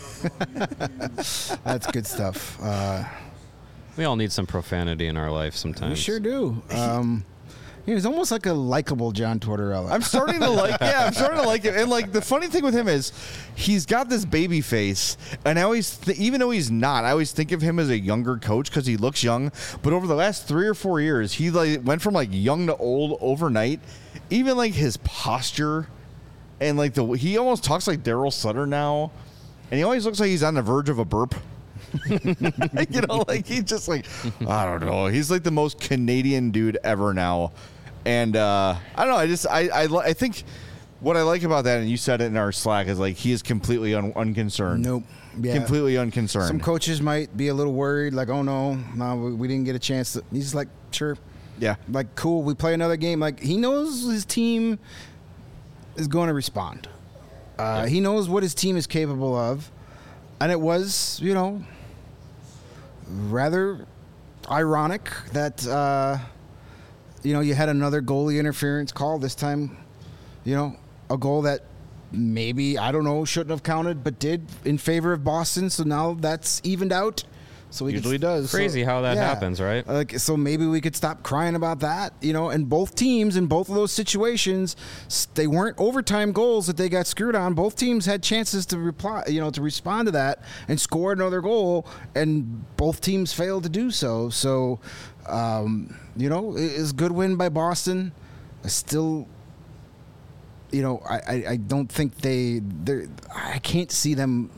uh, That's good stuff. Uh, We all need some profanity in our life sometimes. we sure do. Um, you know, he's almost like a likable John Tortorella. I'm starting to like, yeah, I'm starting to like it. And like the funny thing with him is, he's got this baby face, and I always, th- even though he's not, I always think of him as a younger coach because he looks young. But over the last three or four years, he like went from like young to old overnight. Even like his posture, and like the he almost talks like Daryl Sutter now, and he always looks like he's on the verge of a burp. You know, like he's just like, I don't know. He's like the most Canadian dude ever now. And uh, I don't know. I just, I, I, li- I think what I like about that, and you said it in our Slack, is like he is completely un- unconcerned. Nope. Yeah. Completely unconcerned. Some coaches might be a little worried, like, oh no, no, we, we didn't get a chance. To, he's like, sure. Yeah. Like, cool, we play another game. Like, he knows his team is going to respond. Uh, Yeah. He knows what his team is capable of. And it was, you know, rather ironic that, uh, you know, you had another goalie interference call this time, you know, a goal that maybe, I don't know, shouldn't have counted, but did in favor of Boston. So now that's evened out. So we Usually could, does. Crazy how that happens, right? Like, so maybe we could stop crying about that, you know. And both teams in both of those situations, s- they weren't overtime goals that they got screwed on. Both teams had chances to reply, you know, to respond to that and score another goal, and both teams failed to do so. So, um, you know, it is a good win by Boston. I still, you know, I, I, I don't think they, they I can't see them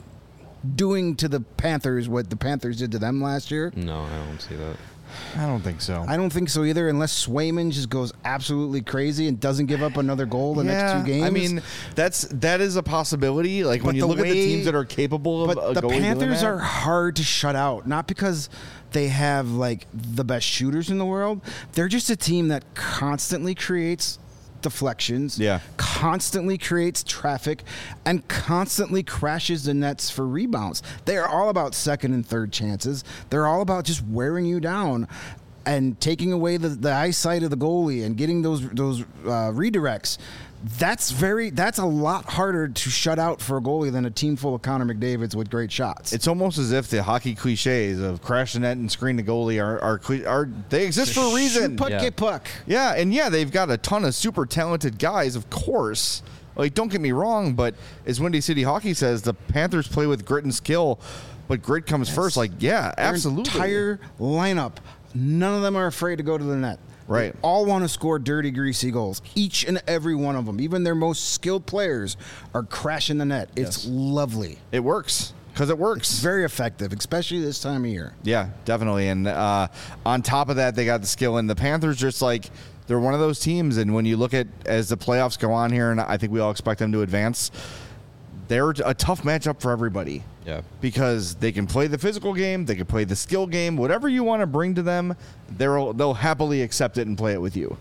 doing to the Panthers what the Panthers did to them last year. No, I don't see that. I don't think so. I don't think so either, unless Swayman just goes absolutely crazy and doesn't give up another goal the next two games. I mean, that's that is a possibility. Like when But you the look at the way- teams that are capable of but a the goalie doing Panthers that. are hard to shut out, not because they have like the best shooters in the world. They're just a team that constantly creates deflections, Yeah. constantly creates traffic, and constantly crashes the nets for rebounds. They are all about second and third chances. They're all about just wearing you down and taking away the, the eyesight of the goalie and getting those those uh, redirects. That's very. That's a lot harder to shut out for a goalie than a team full of Connor McDavids with great shots. It's almost as if the hockey cliches of crash the net and screen the goalie are are, cli- are they exist for a reason. Shoot puck, Yeah. get puck. Yeah, and yeah, they've got a ton of super talented guys, of course. Like, don't get me wrong, but as Windy City Hockey says, the Panthers play with grit and skill, but grit comes first. Like, yeah, Their absolutely. entire lineup, none of them are afraid to go to the net. Right. They all want to score dirty, greasy goals. Each and every one of them, even their most skilled players, are crashing the net. It's Yes. lovely. It works because it works. It's very effective, especially this time of year. Yeah, definitely. And uh, on top of that, they got the skill. And the Panthers just like, they're one of those teams. And when you look at as the playoffs go on here, and I think we all expect them to advance, they're a tough matchup for everybody. Yeah. Because they can play the physical game, they can play the skill game, whatever you want to bring to them, they'll they'll happily accept it and play it with you.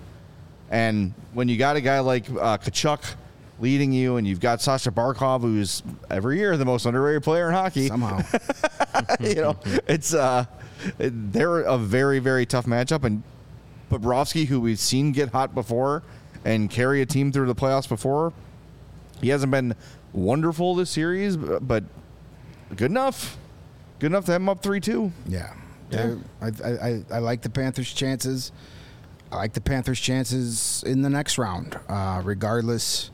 And when you got a guy like uh, Kachuk leading you, and you've got Sasha Barkov, who's every year the most underrated player in hockey, Somehow. you know, it's uh, they're a very very tough matchup. And Bobrovsky, who we've seen get hot before and carry a team through the playoffs before, he hasn't been wonderful this series, but good enough. Good enough to have him up three two. Yeah. They're- I, I, I, I like the Panthers' chances. I like the Panthers' chances in the next round, uh, regardless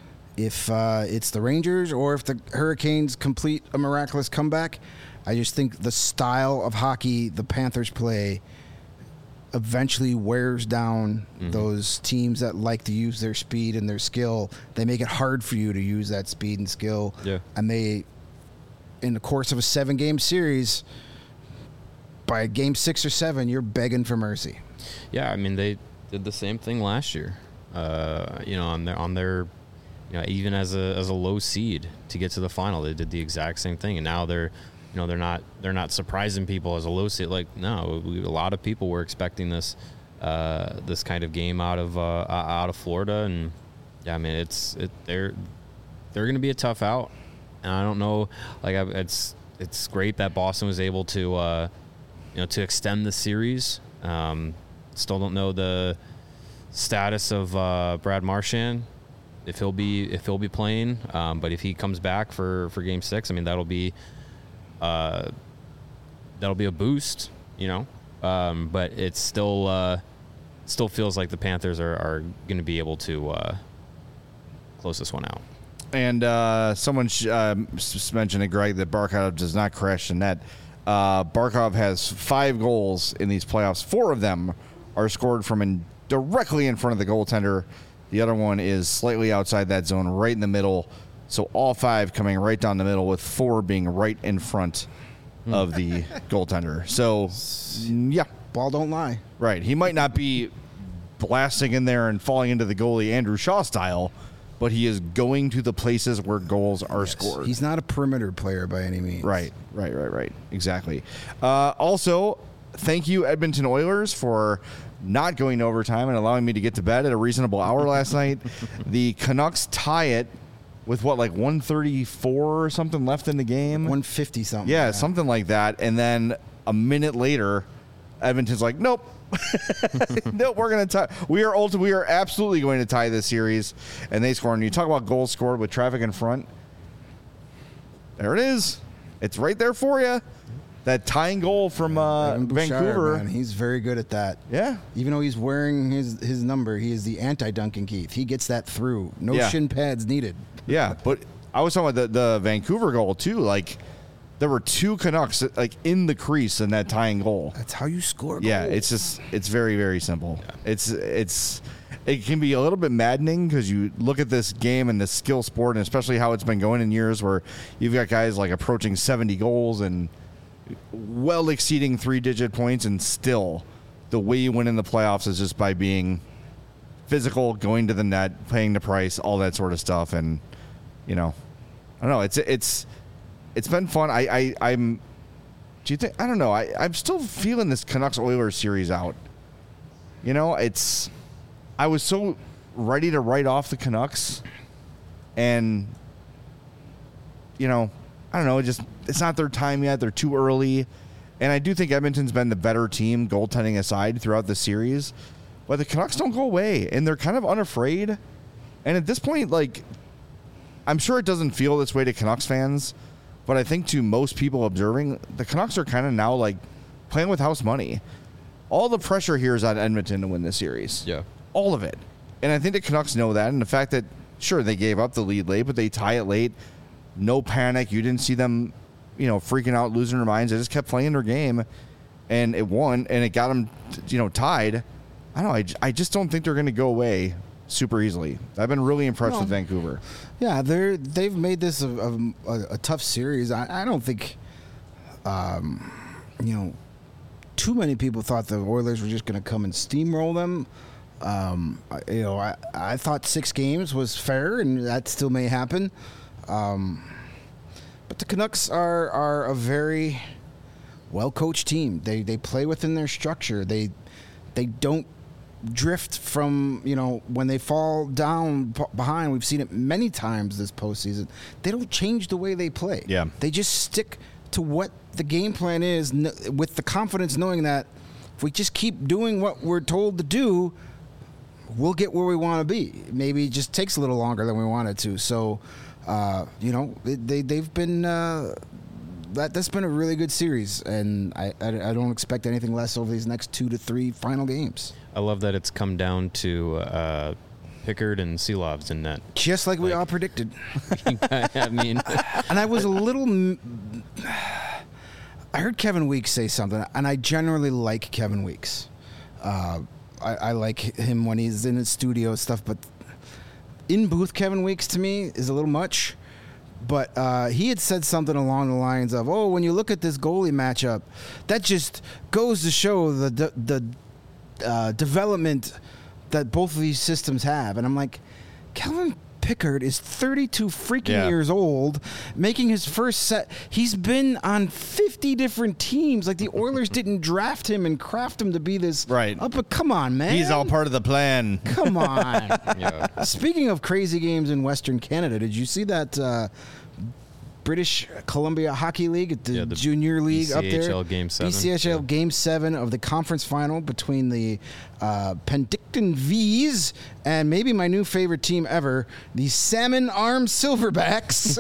if uh, it's the Rangers or if the Hurricanes complete a miraculous comeback. I just think the style of hockey the Panthers play eventually wears down Mm-hmm. those teams that like to use their speed and their skill. They make it hard for you to use that speed and skill. Yeah. And they, in the course of a seven-game series, by game six or seven, you're begging for mercy. Yeah, I mean they did the same thing last year. Uh, you know, on their on their, you know, even as a as a low seed to get to the final, they did the exact same thing, and now they're, you know, they're not they're not surprising people as a low seed. Like no, we, a lot of people were expecting this uh, this kind of game out of uh, out of Florida, and yeah, I mean it's it, they're they're going to be a tough out, and I don't know, like I, it's it's great that Boston was able to uh, you know to extend the series. Um, still don't know the status of uh, Brad Marchand, if he'll be if he'll be playing, um, but if he comes back for, for Game Six, I mean that'll be uh, that'll be a boost, you know. Um, but it's still uh, still feels like the Panthers are, are going to be able to uh, close this one out. And uh, someone sh- uh, s- mentioned to Greg that Barkov does not crash the net. Uh, Barkov has five goals in these playoffs. Four of them are scored from in, directly in front of the goaltender. The other one is slightly outside that zone, right in the middle. So all five coming right down the middle, with four being right in front of the goaltender. So, yeah. Ball don't lie. Right. He might not be blasting in there and falling into the goalie Andrew Shaw style, but he is going to the places where goals are Yes. scored. He's not a perimeter player by any means. Right, right, right, right. Exactly. Uh, also, thank you, Edmonton Oilers, for not going to overtime and allowing me to get to bed at a reasonable hour last night. The Canucks tie it with, what, like one thirty-four or something left in the game? one fifty something. Yeah, something like that. And then a minute later, Edmonton's like, nope. no, we're going to tie. We are ulti- We are absolutely going to tie this series. And they score. And you talk about goals scored with traffic in front. There it is. It's right there for you. That tying goal from uh, Evan Bouchard, Vancouver. man, he's very good at that. Yeah. Even though he's wearing his, his number, he is the anti-Duncan Keith. He gets that through. No Yeah. shin pads needed. Yeah, but I was talking about the, the Vancouver goal, too. Like, there were two Canucks, like, in the crease in that tying goal. That's how you score. Yeah, goals. it's just, it's very, very simple. It's, it's, it can be a little bit maddening because you look at this game and the skill sport, and especially how it's been going in years where you've got guys like approaching seventy goals and well exceeding three-digit points, and still the way you win in the playoffs is just by being physical, going to the net, paying the price, all that sort of stuff. And, you know, I don't know. It's, it's, it's been fun. I, I, I'm, do you think, I don't know. I, I'm still feeling this Canucks Oilers series out. You know, it's, I was so ready to write off the Canucks, and, you know, I don't know, it just, it's not their time yet. They're too early. And I do think Edmonton's been the better team, goaltending aside, throughout the series. But the Canucks don't go away, and they're kind of unafraid. And at this point, like, I'm sure it doesn't feel this way to Canucks fans, but I think to most people observing, the Canucks are kind of now, like, playing with house money. All the pressure here is on Edmonton to win this series. Yeah. All of it. And I think the Canucks know that, and the fact that, sure, they gave up the lead late, but they tie it late. No panic. You didn't see them, you know, freaking out, losing their minds. They just kept playing their game, and it won, and it got them, you know, tied. I don't know. I, I just don't think they're going to go away super easily. I've been really impressed No. with Vancouver. Yeah, they're they've made this a, a, a tough series. I, I don't think, um, you know, too many people thought the Oilers were just going to come and steamroll them. Um, I, you know, I, I thought six games was fair, and that still may happen. Um, but the Canucks are are a very well coached team. They they play within their structure. They they don't drift from, you know, when they fall down p- behind. We've seen it many times this postseason. They don't change the way they play. Yeah. They just stick to what the game plan is, n- with the confidence knowing that if we just keep doing what we're told to do, we'll get where we want to be. Maybe it just takes a little longer than we want it to. So, uh, you know, they, they they've been uh, that that's been a really good series, and I, I I don't expect anything less over these next two to three final games. I love that it's come down to uh, Pickard and Seelovs in net. Just like we Like- all predicted. I mean, And I was a little. m- I heard Kevin Weeks say something, and I generally like Kevin Weeks. Uh, I, I like him when he's in his studio and stuff, but in booth Kevin Weeks to me is a little much. But uh, he had said something along the lines of, "Oh, when you look at this goalie matchup, that just goes to show the the, the uh, development that both of these systems have." And I'm like, Kevin Pickard is thirty-two freaking Yeah. years old, making his first set. He's been on fifty different teams. Like the Oilers didn't draft him and craft him to be this. Right. Oh, but come on, man. He's all part of the plan. Come on. Yeah. Speaking of crazy games in Western Canada, did you see that uh, British Columbia Hockey League, the, Yeah, the junior league up there? B C H L Game seven. B C H L Yeah. Game seven of the conference final between the uh, Penticton V's and maybe my new favorite team ever, the Salmon Arm Silverbacks.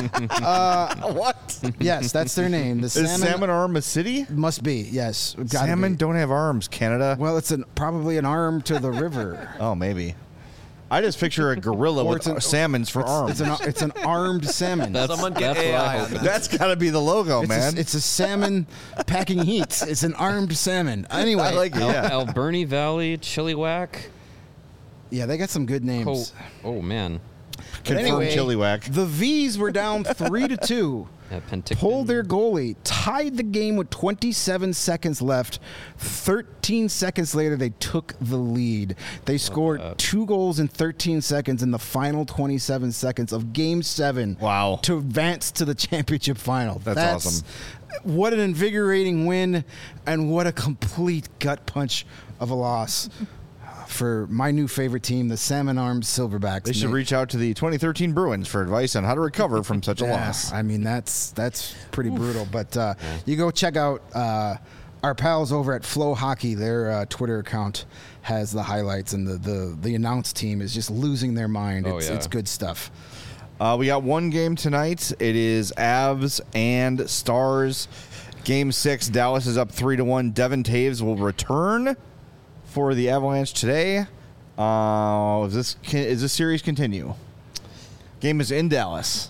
uh, What? yes, that's their name. The Is Salmon, Salmon Arm a city? must be, yes. Gotta Salmon be. don't have arms, Canada. Well, it's an, probably an arm to the river. Oh, maybe. I just picture a gorilla Or with it's an- salmons for arms. It's an it's an armed salmon. That's, Someone get that's A what I I hope on it that. That's got to be the logo, It's man. A, it's a salmon packing heat. It's an armed salmon. Anyway, I like it. Al- Yeah. Alberni Valley, Chilliwack. yeah, they got some good Oh, names. oh man. Confirmed anyway, chili whack. The V's were down three to two. Yeah, Penticton. Pulled their goalie, tied the game with twenty-seven seconds left. thirteen seconds later, they took the lead. They scored two goals in thirteen seconds in the final twenty-seven seconds of Game Seven. Wow. To advance to the championship final. That's awesome. What an invigorating win, and what a complete gut punch of a loss for my new favorite team, the Salmon Armed Silverbacks. They should Nate. reach out to the twenty thirteen Bruins for advice on how to recover from such a Yeah, loss. I mean, that's that's pretty brutal. But uh, you go check out uh, our pals over at Flow Hockey. Their uh, Twitter account has the highlights, and the, the, the announce team is just losing their mind. Oh, It's, yeah. it's good stuff. Uh, we got one game tonight. It is Avs and Stars. Game six, Dallas is up three to one. Devin Taves will return for the Avalanche today. Uh, is this is this series continue? Game is in Dallas.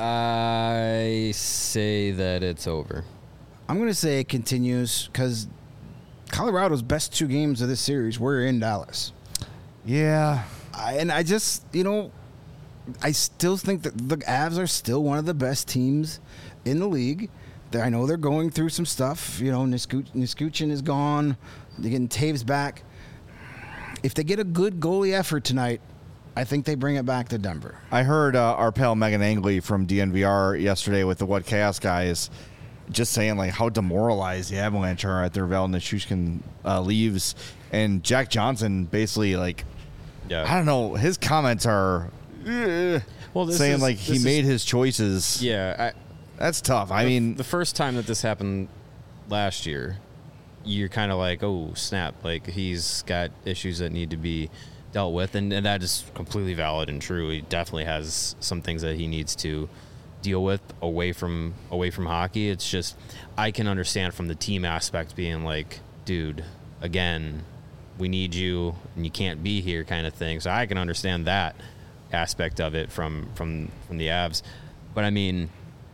I say that it's over. I'm going to say it continues because Colorado's best two games of this series were in Dallas. Yeah. I, and I just, you know, I still think that the Avs are still one of the best teams in the league. They- I know they're going through some stuff. You know, Nisku- Niskuchin is gone. They're getting Taves back. If they get a good goalie effort tonight, I think they bring it back to Denver. I heard uh, our pal Megan Angley from D N V R yesterday with the What Chaos guys just saying like how demoralized the Avalanche are at their Val Nichushkin uh, leaves, and Jack Johnson basically like Yeah. I don't know, his comments are eh, Well, this saying is- like this he is- made his choices. Yeah. I, That's tough. I mean, the first time that this happened last year, you're kind of like, oh, snap. Like, he's got issues that need to be dealt with. And, and that is completely valid and true. He definitely has some things that he needs to deal with away from away from hockey. It's just, I can understand from the team aspect being like, dude, again, we need you and you can't be here kind of thing. So I can understand that aspect of it from, from, from the Avs. But, I mean...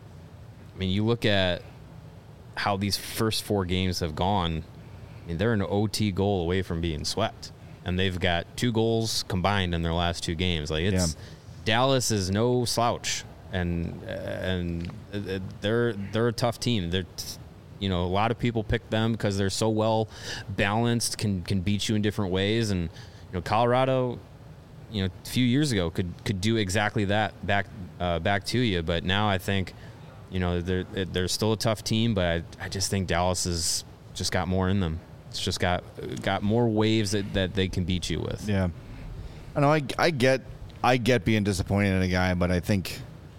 I mean, you look at how these first four games have gone. I mean, they're an O T goal away from being swept, and they've got two goals combined in their last two games. Like it's Yeah. Dallas is no slouch, and and uh, they're they're a tough team. They're you know a lot of people pick them because they're so well balanced, can can beat you in different ways, and you know Colorado. You know, a few years ago could could do exactly that back uh, back to you, but now I think. You know, they're they're still a tough team, but I, I just think Dallas has just got more in them. It's just got got more waves that, that they can beat you with. yeah. I know. I, I get I get being disappointed in a guy, but I think,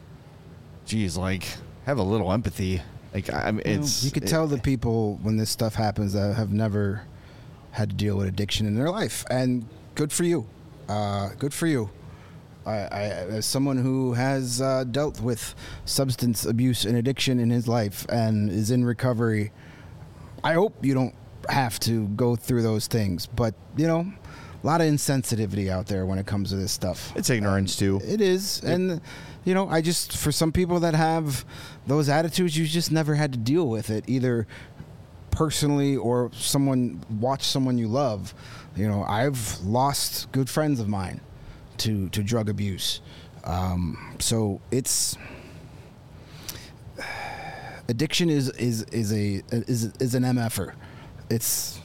geez, like have a little empathy. Like I mean, it's you could it- tell the people when this stuff happens that have never had to deal with addiction in their life, and good for you. Uh, good for you. I, I, as someone who has uh, dealt with substance abuse and addiction in his life and is in recovery, I hope you don't have to go through those things. But, you know, a lot of insensitivity out there when it comes to this stuff. It's ignorance too. It is. And, you know, I just, for some people that have those attitudes, you just never had to deal with it, either personally or someone, watch someone you love. You know, I've lost good friends of mine to, to drug abuse. Um, so it's, addiction is, is, is a, is, is an M F-er. It's,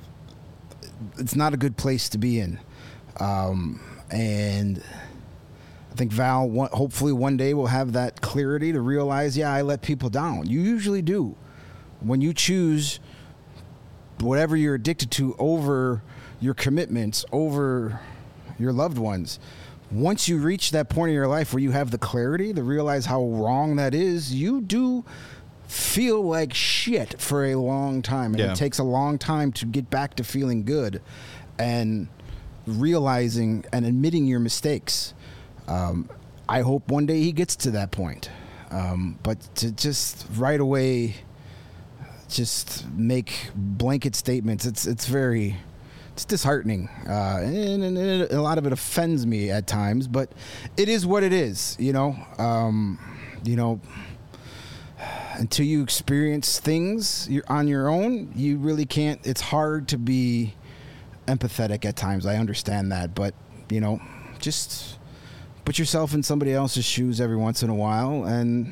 it's not a good place to be in. Um, and think Val, one, hopefully one day will have that clarity to realize, yeah, I let people down. You usually do. When you choose whatever you're addicted to over your commitments, over your loved ones, once you reach that point in your life where you have the clarity to realize how wrong that is, you do feel like shit for a long time. And Yeah. it takes a long time to get back to feeling good and realizing and admitting your mistakes. Um, I hope one day he gets to that point. Um, but to just right away just make blanket statements, it's it's very... It's disheartening, uh, and, and, and a lot of it offends me at times. But it is what it is, you know. Um, you know, until you experience things you're on your own, you really can't. It's hard to be empathetic at times. I understand that, but you know, just put yourself in somebody else's shoes every once in a while and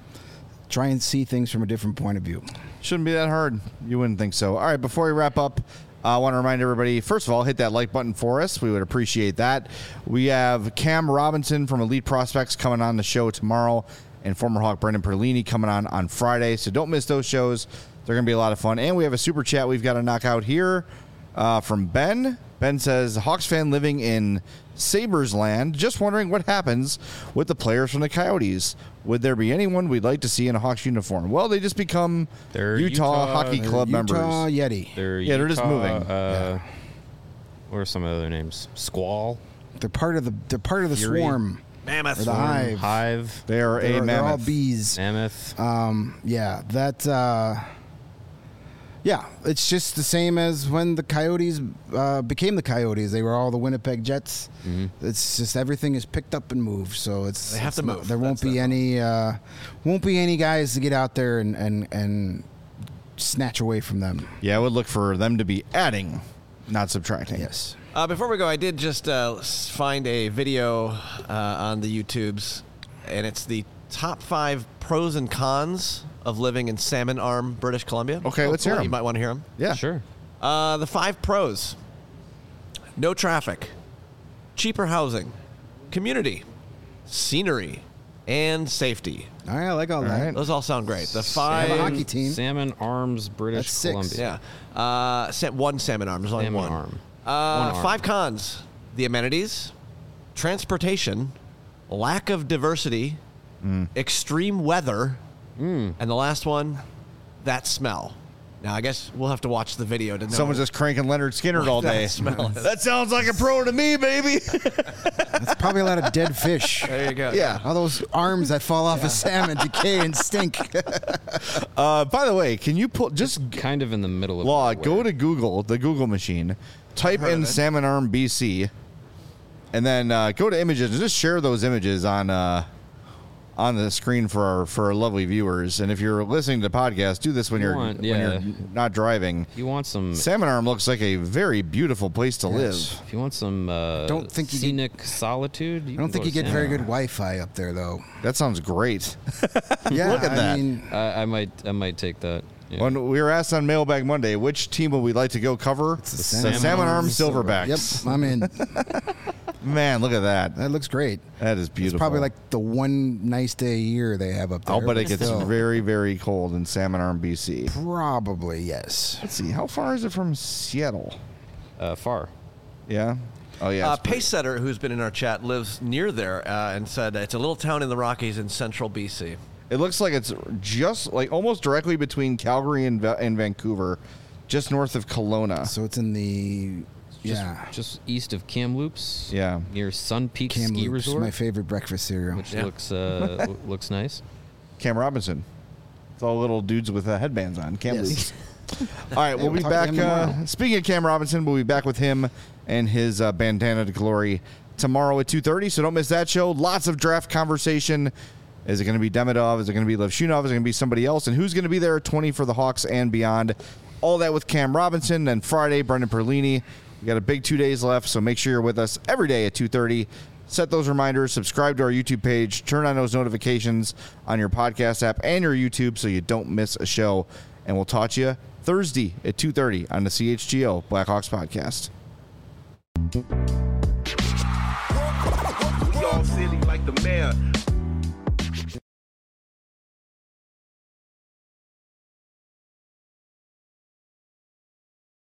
try and see things from a different point of view. Shouldn't be that hard. You wouldn't think so. All right, before we wrap up, I want to remind everybody, first of all, hit that like button for us. We would appreciate that. We have Cam Robinson from Elite Prospects coming on the show tomorrow, and former Hawk Brendan Perlini coming on on Friday. So don't miss those shows. They're going to be a lot of fun. And we have a super chat we've got to knock out here uh, from Ben. Ben says, Hawks fan living in Sabres land, just wondering what happens with the players from the Coyotes. Would there be anyone we'd like to see in a Hawks uniform? Well, they just become They're Utah, Utah- Hockey Club Utah members. Yeti. They're Yeah, they're just Utah, moving. Uh, What are some of the other names? Squall, They're part of the. They're part of the Fury. swarm. Mammoth. Or the hive. Hive, They are They're, a they're all mammoth. bees. Mammoth. Um, yeah, that. Uh, yeah, it's just the same as when the Coyotes uh, became the Coyotes. They were all the Winnipeg Jets. Mm-hmm. It's just everything is picked up and moved. So it's They have it's to not- move. There won't That's be the- any. Uh, won't be any guys to get out there and and and snatch away from them. Yeah, I would look for them to be adding, not subtracting. Yes. Uh, before we go, I did just uh, s- find a video uh, on the YouTubes, and it's the top five pros and cons of living in Salmon Arm, British Columbia. Okay, let's hear You 'em. might want to hear them. Yeah. Sure. Uh, the five pros: no traffic, cheaper housing, community, scenery, and safety. All right, I like all, All that. right. Those all sound great. The Have a five. hockey team. Salmon Arms, British That's six. Columbia. Yeah. Uh, sa- one salmon arm. There's only Salmon one. arm. Uh, One arm. Five cons: the amenities, transportation, lack of diversity, Mm. extreme weather, and the last one, that smell. Now, I guess we'll have to watch the video to know. Someone's just cranking Leonard Skinner all that day. smell is. That sounds like a pro to me, baby. That's probably a lot of dead fish. There you go. Yeah. All those arms that fall off a salmon decay and stink. Uh, by the way, can you pull just Kind of in the middle of Law, nowhere. go to Google, the Google machine, type heard in of it. Salmon Arm B C, and then uh, go to images and just share those images on uh, on the screen for our for our lovely viewers. And if you're listening to the podcast, do this when You you're want- when yeah. you're not driving. You want some? Salmon Arm looks like a very beautiful place to live. If you want some uh, Don't think you get- scenic solitude, you I don't can think go you to get very Salmon good Wi-Fi up there, though. That sounds great. Yeah, Look at I that. mean, Arm. I, I might, I might take that. Yeah. When we were asked on Mailbag Monday, which team would we like to go cover? the the Salmon Salmon Arm Arm Silverbacks. yep, I'm in. Man, look at that. That looks great. That is It's beautiful. probably like the one nice day a year they have up there. I'll bet it but gets still. very, very cold in Salmon Arm, B C. Probably, yes. Let's see, how far is it from Seattle? uh, far. Yeah. Oh yeah. Uh, it's pretty- Pace Setter, who's been in our chat, lives near there uh, and said it's a little town in the Rockies in central B C. It looks like it's just like almost directly between Calgary and, Va- and Vancouver, just north of Kelowna. So it's in the Just, yeah. just east of Kamloops. Yeah. Near Sun Peak Ski Kamloops, Resort, my favorite breakfast cereal. which Yeah. looks uh, w- looks nice. Cam Robinson. It's all little dudes with uh, headbands on. Cam Yes. Loops. All right, we'll we'll be talk to back. him tomorrow. Uh, speaking of Cam Robinson, we'll be back with him and his uh, bandana to glory tomorrow at two thirty. So don't miss that show. Lots of draft conversation. Is it going to be Demidov? Is it going to be Levshunov? Is it going to be somebody else? And who's going to be there at twenty for the Hawks and beyond? All that with Cam Robinson. Then Friday, Brendan Perlini. We got a big two days left, so make sure you're with us every day at two thirty. Set those reminders, subscribe to our YouTube page, turn on those notifications on your podcast app and your YouTube so you don't miss a show. And we'll talk to you Thursday at two thirty on the C H G O Blackhawks podcast. We all city like the mayor.